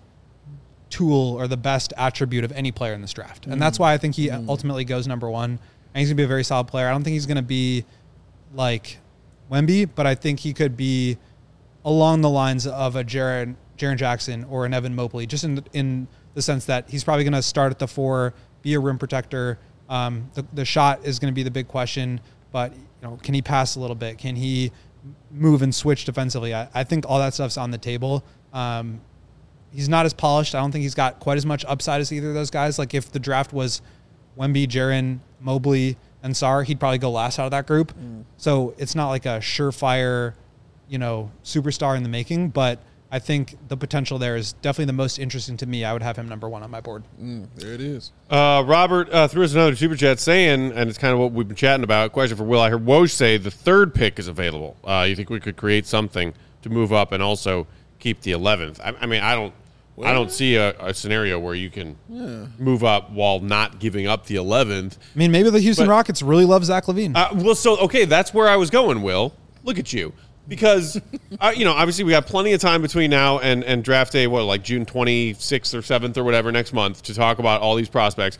tool or the best attribute of any player in this draft. And that's why I think he mm. ultimately goes number one. And he's going to be a very solid player. I don't think he's going to be like Wemby, but I think he could be along the lines of a Jaren, Jaren Jackson or an Evan Mobley, just in in the sense that he's probably going to start at the four, be a rim protector. Um, the, the shot is going to be the big question, but you know, can he pass a little bit? Can he move and switch defensively? I, I think all that stuff's on the table. Um, he's not as polished. I don't think he's got quite as much upside as either of those guys. Like if the draft was Wemby, Jaren, Mobley, and Sarr, he'd probably go last out of that group. Mm. So it's not like a surefire, you know, superstar in the making, but I think the potential there is definitely the most interesting to me. I would have him number one on my board. Mm, there it is. Uh, Robert uh, threw us another super chat saying, and it's kind of what we've been chatting about. Question for Will. I heard Woj say the third pick is available. Uh, you think we could create something to move up and also keep the eleventh? I, I mean, I don't. Well, I don't see a, a scenario where you can yeah. move up while not giving up the eleventh. I mean, maybe the Houston but, Rockets really love Zach LaVine. Uh, well, so, okay, that's where I was going, Will. Look at you. Because, uh, you know, obviously we got plenty of time between now and, and draft day, what, like June twenty-sixth or seventh or whatever next month to talk about all these prospects.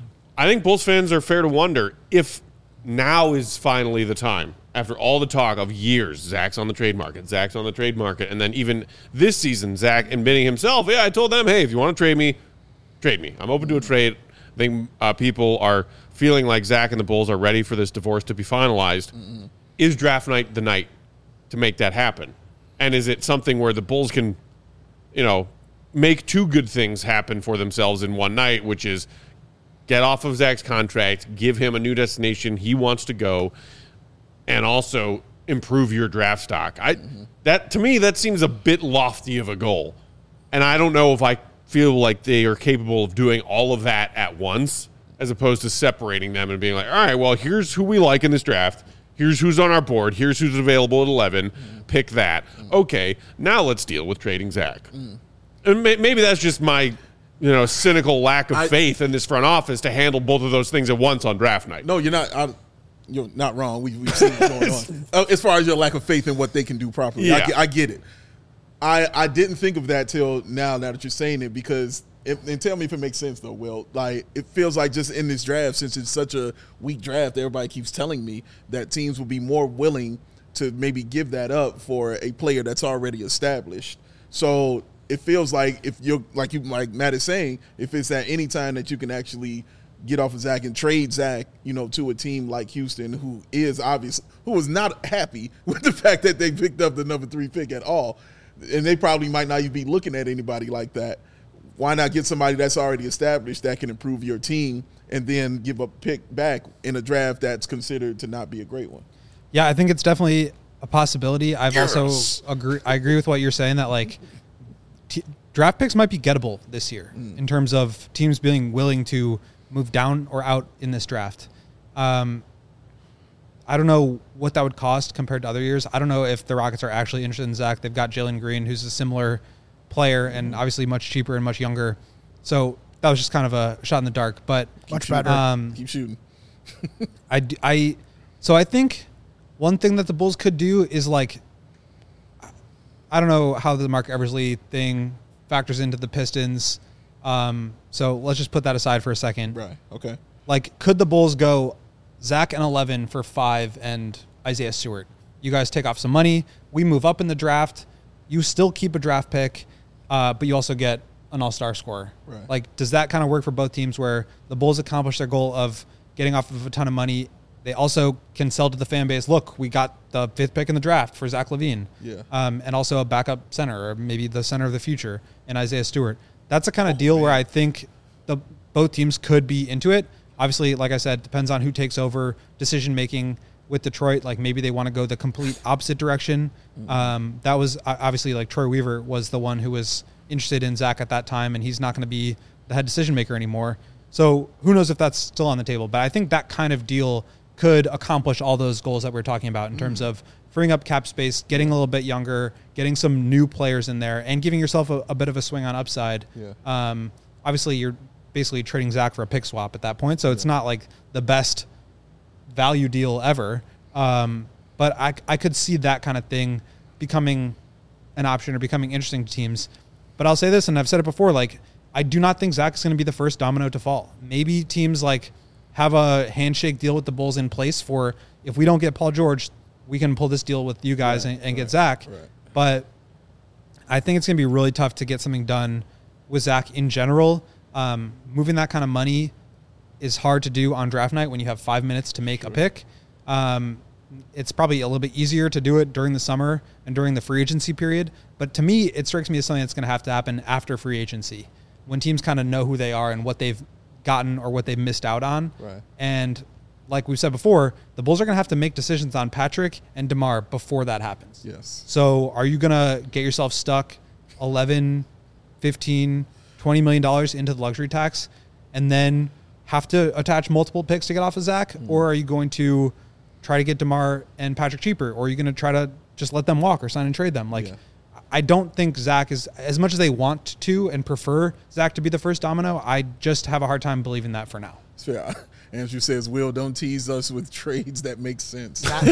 I think Bulls fans are fair to wonder if now is finally the time. After all the talk of years, Zach's on the trade market, Zach's on the trade market, and then even this season, Zach admitting himself, yeah, I told them, hey, if you want to trade me, trade me. I'm open to a trade. I think uh, people are feeling like Zach and the Bulls are ready for this divorce to be finalized. Mm-hmm. Is draft night the night to make that happen? And is it something where the Bulls can, you know, make two good things happen for themselves in one night, which is get off of Zach's contract, give him a new destination he wants to go, and also improve your draft stock. I mm-hmm. that to me that seems a bit lofty of a goal, and I don't know if I feel like they are capable of doing all of that at once, as opposed to separating them and being like, all right, well, here's who we like in this draft. Here's who's on our board. Here's who's available at eleven. Mm. Pick that. Mm. Okay, now let's deal with trading Zach. Mm. And may, maybe that's just my, you know, cynical lack of I, faith in this front office to handle both of those things at once on draft night. No, you're not. I, You're not wrong. We, we've seen what's going on. Uh, as far as your lack of faith in what they can do properly, yeah. I, get, I get it. I, I didn't think of that till now, now that you're saying it, because it, and tell me if it makes sense though, Will. Like it feels like just in this draft, since it's such a weak draft, everybody keeps telling me that teams will be more willing to maybe give that up for a player that's already established. So it feels like if you're like you like Matt is saying, if it's at any time that you can actually get off of Zach and trade Zach, you know, to a team like Houston, who is obvious, who was not happy with the fact that they picked up the number three pick at all, and they probably might not even be looking at anybody like that. Why not get somebody that's already established that can improve your team and then give a pick back in a draft that's considered to not be a great one? Yeah, I think it's definitely a possibility. I've yes. also agree. I agree with what you're saying that like t- draft picks might be gettable this year mm. in terms of teams being willing to move down or out in this draft. Um, I don't know what that would cost compared to other years. I don't know if the Rockets are actually interested in Zach. They've got Jalen Green, who's a similar player and obviously much cheaper and much younger. So that was just kind of a shot in the dark. But much better. Um, Keep shooting. I, I, so I think one thing that the Bulls could do is like, I don't know how the Mark Eversley thing factors into the Pistons. Um, so let's just put that aside for a second. Right. Okay. Like, could the Bulls go Zach and eleven for five and Isaiah Stewart? You guys take off some money. We move up in the draft. You still keep a draft pick, uh, but you also get an all-star scorer. Right. Like, does that kind of work for both teams where the Bulls accomplish their goal of getting off of a ton of money? They also can sell to the fan base, look, we got the fifth pick in the draft for Zach LaVine. Yeah. Um, and also a backup center, or maybe the center of the future, and Isaiah Stewart. That's the kind of oh, deal man. where I think the both teams could be into it. Obviously, like I said, depends on who takes over decision-making with Detroit. Like, maybe they want to go the complete opposite direction. Mm-hmm. Um, that was obviously, like, Troy Weaver was the one who was interested in Zach at that time, and he's not going to be the head decision-maker anymore. So who knows if that's still on the table. But I think that kind of deal could accomplish all those goals that we're talking about in mm. terms of freeing up cap space, getting a little bit younger, getting some new players in there, and giving yourself a, a bit of a swing on upside. Yeah. Um, obviously, you're basically trading Zach for a pick swap at that point, so yeah. it's not like the best value deal ever. Um, but I, I could see that kind of thing becoming an option or becoming interesting to teams. But I'll say this, and I've said it before, like, I do not think Zach is going to be the first domino to fall. Maybe teams like have a handshake deal with the Bulls in place for, if we don't get Paul George, we can pull this deal with you guys right, and, and right, get Zach. Right. But I think it's going to be really tough to get something done with Zach in general. Um, moving that kind of money is hard to do on draft night when you have five minutes to make sure. a pick. Um, it's probably a little bit easier to do it during the summer and during the free agency period. But to me, it strikes me as something that's going to have to happen after free agency, when teams kind of know who they are and what they've gotten or what they've missed out on. Right. And like we've said before, the Bulls are going to have to make decisions on Patrick and DeMar before that happens. Yes. So are you going to get yourself stuck eleven, fifteen, twenty million dollars into the luxury tax and then have to attach multiple picks to get off of Zach? Mm. Or are you going to try to get DeMar and Patrick cheaper? Or are you going to try to just let them walk or sign and trade them? Like, yeah. I don't think Zach is, as much as they want to and prefer Zach to be the first domino, I just have a hard time believing that for now. It's fair. Andrew says, Will, don't tease us with trades that make sense. Zach,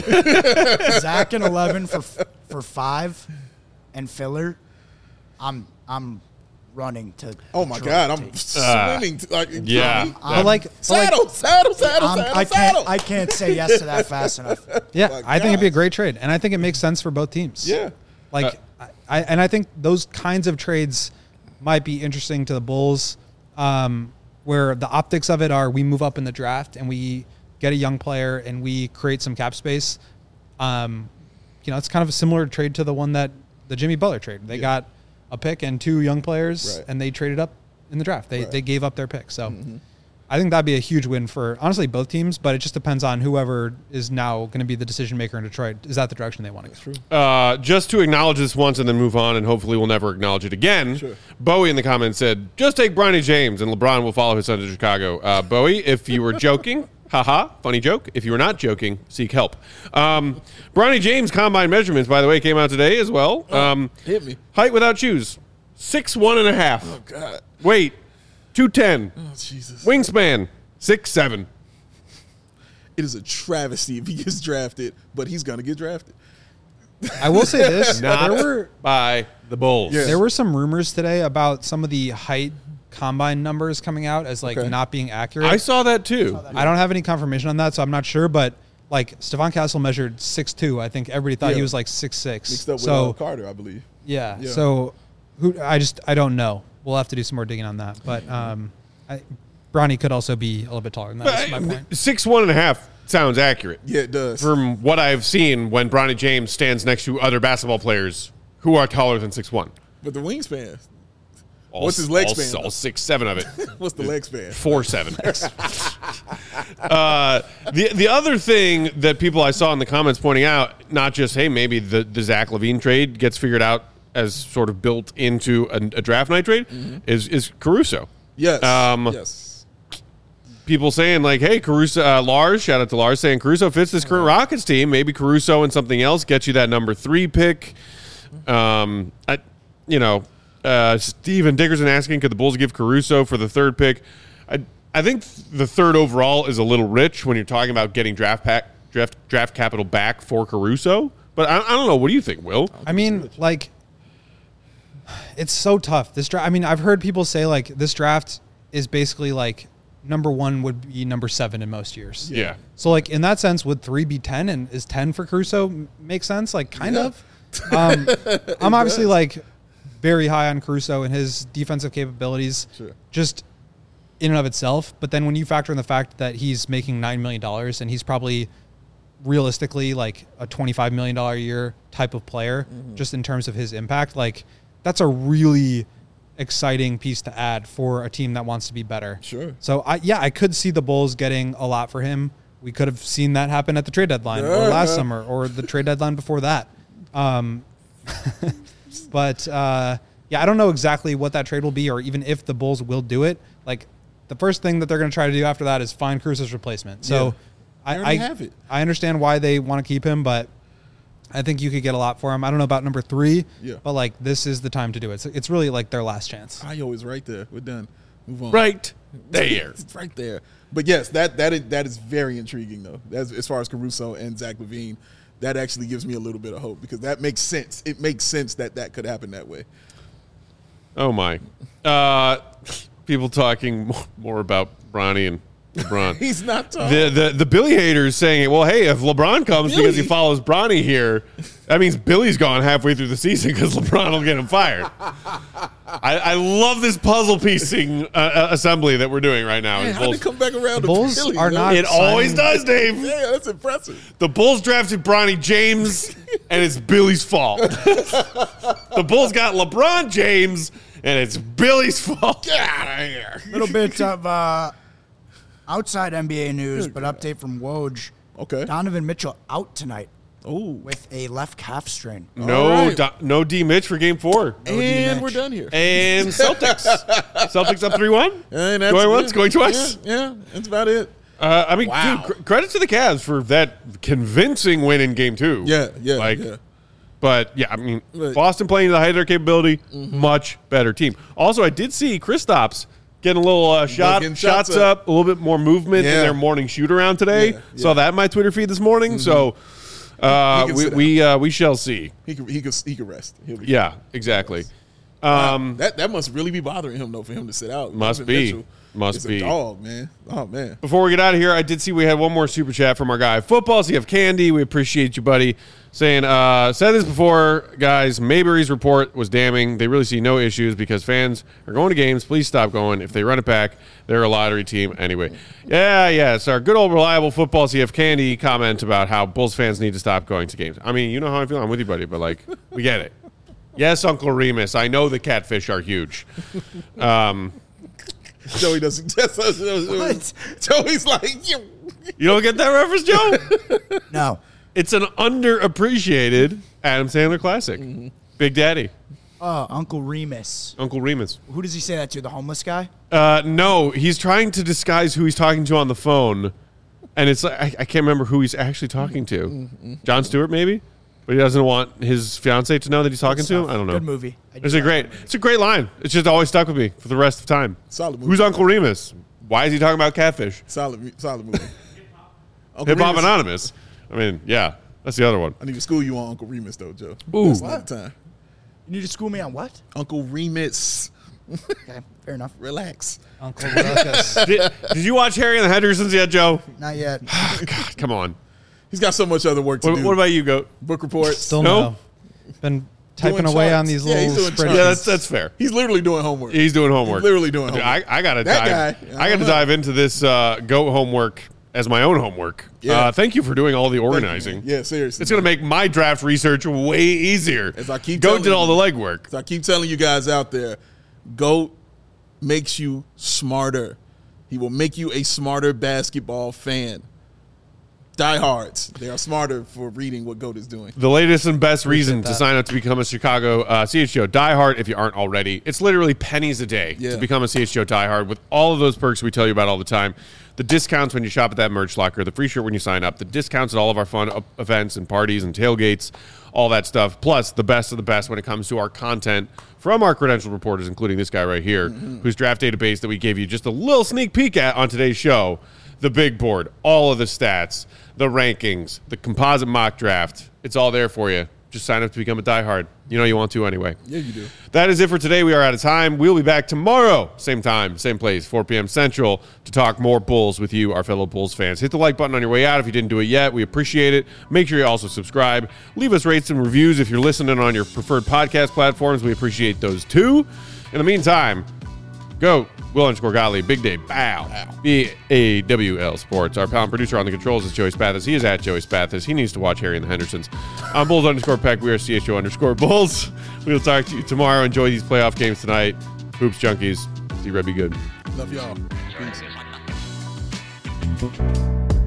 Zach and eleven for for five and filler. I'm I'm running to. Oh my God, I'm swimming. To, like, yeah, I'm, like saddle, like, saddle, saddle, I'm, saddle, I can't saddle. I can't say yes to that fast enough. Yeah, oh I think it'd be a great trade, and I think it makes sense for both teams. Yeah, like. Uh, I, and I think those kinds of trades might be interesting to the Bulls, um, where the optics of it are we move up in the draft and we get a young player and we create some cap space. Um, you know, it's kind of a similar trade to the one that the Jimmy Butler trade. They yeah. got a pick and two young players, right. and they traded up in the draft. They right. they gave up their pick. So mm-hmm. I think that'd be a huge win for, honestly, both teams, but it just depends on whoever is now going to be the decision maker in Detroit. Is that the direction they want to go? True. Uh, just to acknowledge this once and then move on, and hopefully we'll never acknowledge it again. Sure. Bowie in the comments said, just take Bronny James and LeBron will follow his son to Chicago. Uh, Bowie, if you were joking, haha, funny joke. If you were not joking, seek help. Um, Bronny James combine measurements, by the way, came out today as well. Um, oh, hit me. Height without shoes, six one and a half. Oh, God. Weight, two ten. Oh, Jesus. Wingspan, six seven. It is a travesty if he gets drafted, but he's going to get drafted. I will say this. Not there were by the Bulls. Yeah. there were some rumors today about some of the height combine numbers coming out as like Okay. not being accurate. I saw that too. I don't have any confirmation on that, so I'm not sure. But like Stephon Castle measured six two. I think everybody thought Yeah. he was like six six. Mixed up with so uh, Carter, I believe. yeah, Yeah. So who? I just I don't know. We'll have to do some more digging on that. But um, I, Bronny could also be a little bit taller than that. That's my point. Six one and a half sounds accurate. Yeah, it does. From what I've seen when Bronny James stands next to other basketball players who are taller than six one. But the wingspan. All, What's his leg all, span, All though? six, seven of it. What's the leg span? Four seven. uh, the the other thing that people I saw in the comments pointing out, not just, hey, maybe the, the Zach LaVine trade gets figured out as sort of built into a, a draft night trade, mm-hmm. is, is Caruso. Yes. Um, yes. People saying like, hey, Caruso, uh, Lars, shout out to Lars, saying Caruso fits this current Rockets team. Maybe Caruso and something else gets you that number three pick. Um, I, you know, uh, Steven Dickerson asking, could the Bulls give Caruso for the third pick? I, I think the third overall is a little rich when you're talking about getting draft pack, draft draft capital back for Caruso. But I, I don't know. What do you think, Will? I mean, like, it's so tough. This draft. I mean, I've heard people say like this draft is basically like number one would be number seven in most years. Yeah. So like in that sense, would three be ten, and is ten for Caruso m- make sense? Like kind Yeah. of. Um, I'm obviously like very high on Caruso and his defensive capabilities, Sure. just in and of itself. But then when you factor in the fact that he's making nine million dollars and he's probably realistically like a twenty-five million dollars a year type of player, mm-hmm. just in terms of his impact, like that's a really exciting piece to add for a team that wants to be better. Sure. So I, yeah, I could see the Bulls getting a lot for him. We could have seen that happen at the trade deadline yeah, or last yeah. summer or the trade deadline before that. Um, but uh, yeah, I don't know exactly what that trade will be or even if the Bulls will do it. Like the first thing that they're going to try to do after that is find Caruso's replacement. So yeah. I, I, I, have it. I understand why they want to keep him, but I think you could get a lot for him. I don't know about number three, yeah. but like this is the time to do it. So it's really like their last chance. I always right there. We're done. Move on. Right there. It's right there. But yes, that that is, that is very intriguing though. As, as far as Caruso and Zach LaVine, that actually gives me a little bit of hope because that makes sense. It makes sense that that could happen that way. Oh my. Uh, people talking more, more about Bronny and LeBron. He's not talking. The, the the Billy haters saying, well, hey, if LeBron comes Billy. because he follows Bronny here, that means Billy's gone halfway through the season because LeBron will get him fired. I, I love this puzzle piecing uh, assembly that we're doing right now. Man, how did it come back around to Bulls Billy? are yo? not- It always signing- does, Dave. Yeah, that's impressive. The Bulls drafted Bronny James, and it's Billy's fault. The Bulls got LeBron James, and it's Billy's fault. Get out of here. little bit of uh, outside N B A news, but update from Woj. Okay. Donovan Mitchell out tonight Oh, with a left calf strain. No, All right. Do- no D Mitch for Game Four. and D-Mitch. we're done here. And Celtics. Celtics up three one. And that's- Going once, yeah, going twice. Yeah, yeah, that's about it. Uh, I mean, Wow. dude, cr- credit to the Cavs for that convincing win in Game Two. Yeah, yeah, like, yeah. But yeah, I mean, Right. Boston playing to the height of their capability, Mm-hmm. much better team. Also, I did see Kristaps getting a little uh, shot, getting shots, shots up. up. a little bit more movement in Yeah. their morning shoot around today. Yeah, Saw yeah. that in my Twitter feed this morning. So uh, He can we sit we uh, we shall see. He could he could he could rest. He'll be Yeah, exactly. Um, that that must really be bothering him though for him to sit out. Must Donovan be. Mitchell Must is be. a dog, man. Oh man. Before we get out of here, I did see we had one more super chat from our guy Football. So you have Candy. We appreciate you, buddy. Saying, uh, said this before, guys. Mayberry's report was damning. They really see no issues because fans are going to games. Please stop going. If they run it back, they're a lottery team anyway. Yeah, yeah. It's our good old reliable Football. So you have Candy comment about how Bulls fans need to stop going to games. I mean, you know how I feel. I'm with you, buddy. But like, we get it. Yes, Uncle Remus. I know the catfish are huge. Um, Joey doesn't. What? Joey's like, you. you don't get that reference, Joe? No. It's an underappreciated Adam Sandler classic. Big Daddy, Oh, Uncle Remus. Uncle Remus. Who does he say that to? The homeless guy? Uh, no, he's trying to disguise who he's talking to on the phone, and it's like I, I can't remember who he's actually talking to. John Stewart, maybe, but he doesn't want his fiance to know that he's talking to him. I don't know. Good movie. I It's do a great. It's a great line. It's just always stuck with me for the rest of time. Solid movie. Who's Uncle Remus? Why is he talking about catfish? Solid, solid movie. Uncle Hip Hop Remus- Anonymous. I mean, yeah, that's the other one. I need to school you on Uncle Remus though, Joe. Ooh. That's all the time. You need to school me on what? Uncle Remus. Okay, fair enough. Relax. Uncle Ruckus. did, did you watch Harry and the Hendersons yet, Joe? Not yet. God, come on. He's got so much other work to What, do. what about you, Goat? book reports? Still No? no. Been typing Doing away charts. on these Yeah, he's little doing spreadsheets. charts. Yeah, that's that's fair. He's literally doing homework. He's doing homework. literally doing Dude, homework. I, I gotta That dive. guy, I I, gotta don't know. dive into this uh, Goat homework as my own homework. Yeah. Uh, thank you for doing all the Thank you, organizing. man. Yeah, seriously. It's gonna make my draft research way easier. As I keep Goat telling did all the you. legwork. So I keep telling you guys out there, GOAT makes you smarter. He will make you a smarter basketball fan. Diehards, they are smarter for reading what GOAT is doing. The latest and best reason to that. sign up to become a Chicago uh, C H G O diehard if you aren't already. It's literally pennies a day Yeah. to become a C H G O diehard with all of those perks we tell you about all the time. The discounts when you shop at that merch locker, the free shirt when you sign up, the discounts at all of our fun up- events and parties and tailgates, all that stuff. Plus, the best of the best when it comes to our content from our credentialed reporters, including this guy right here, whose draft database that we gave you just a little sneak peek at on today's show. The big board, all of the stats, the rankings, the composite mock draft. It's all there for you. just sign up to become a diehard. You know you want to anyway. Yeah, you do. That is it for today. We are out of time. We'll be back tomorrow, same time, same place, four p.m. Central, to talk more Bulls with you, our fellow Bulls fans. Hit the like button on your way out if you didn't do it yet. We appreciate it. Make sure you also subscribe. Leave us rates and reviews if you're listening on your preferred podcast platforms. We appreciate those too. In the meantime, go Will underscore Gottlieb, Big Day, Bow, B A W L Sports. Our pound producer on the controls is Joey Spathis. He is at Joey Spathis. He needs to watch Harry and the Hendersons. I'm Bulls underscore Peck. We are C H O underscore Bulls. We will talk to you tomorrow. Enjoy these playoff games tonight. Hoops Junkies. See Red be good. Love y'all. Peace.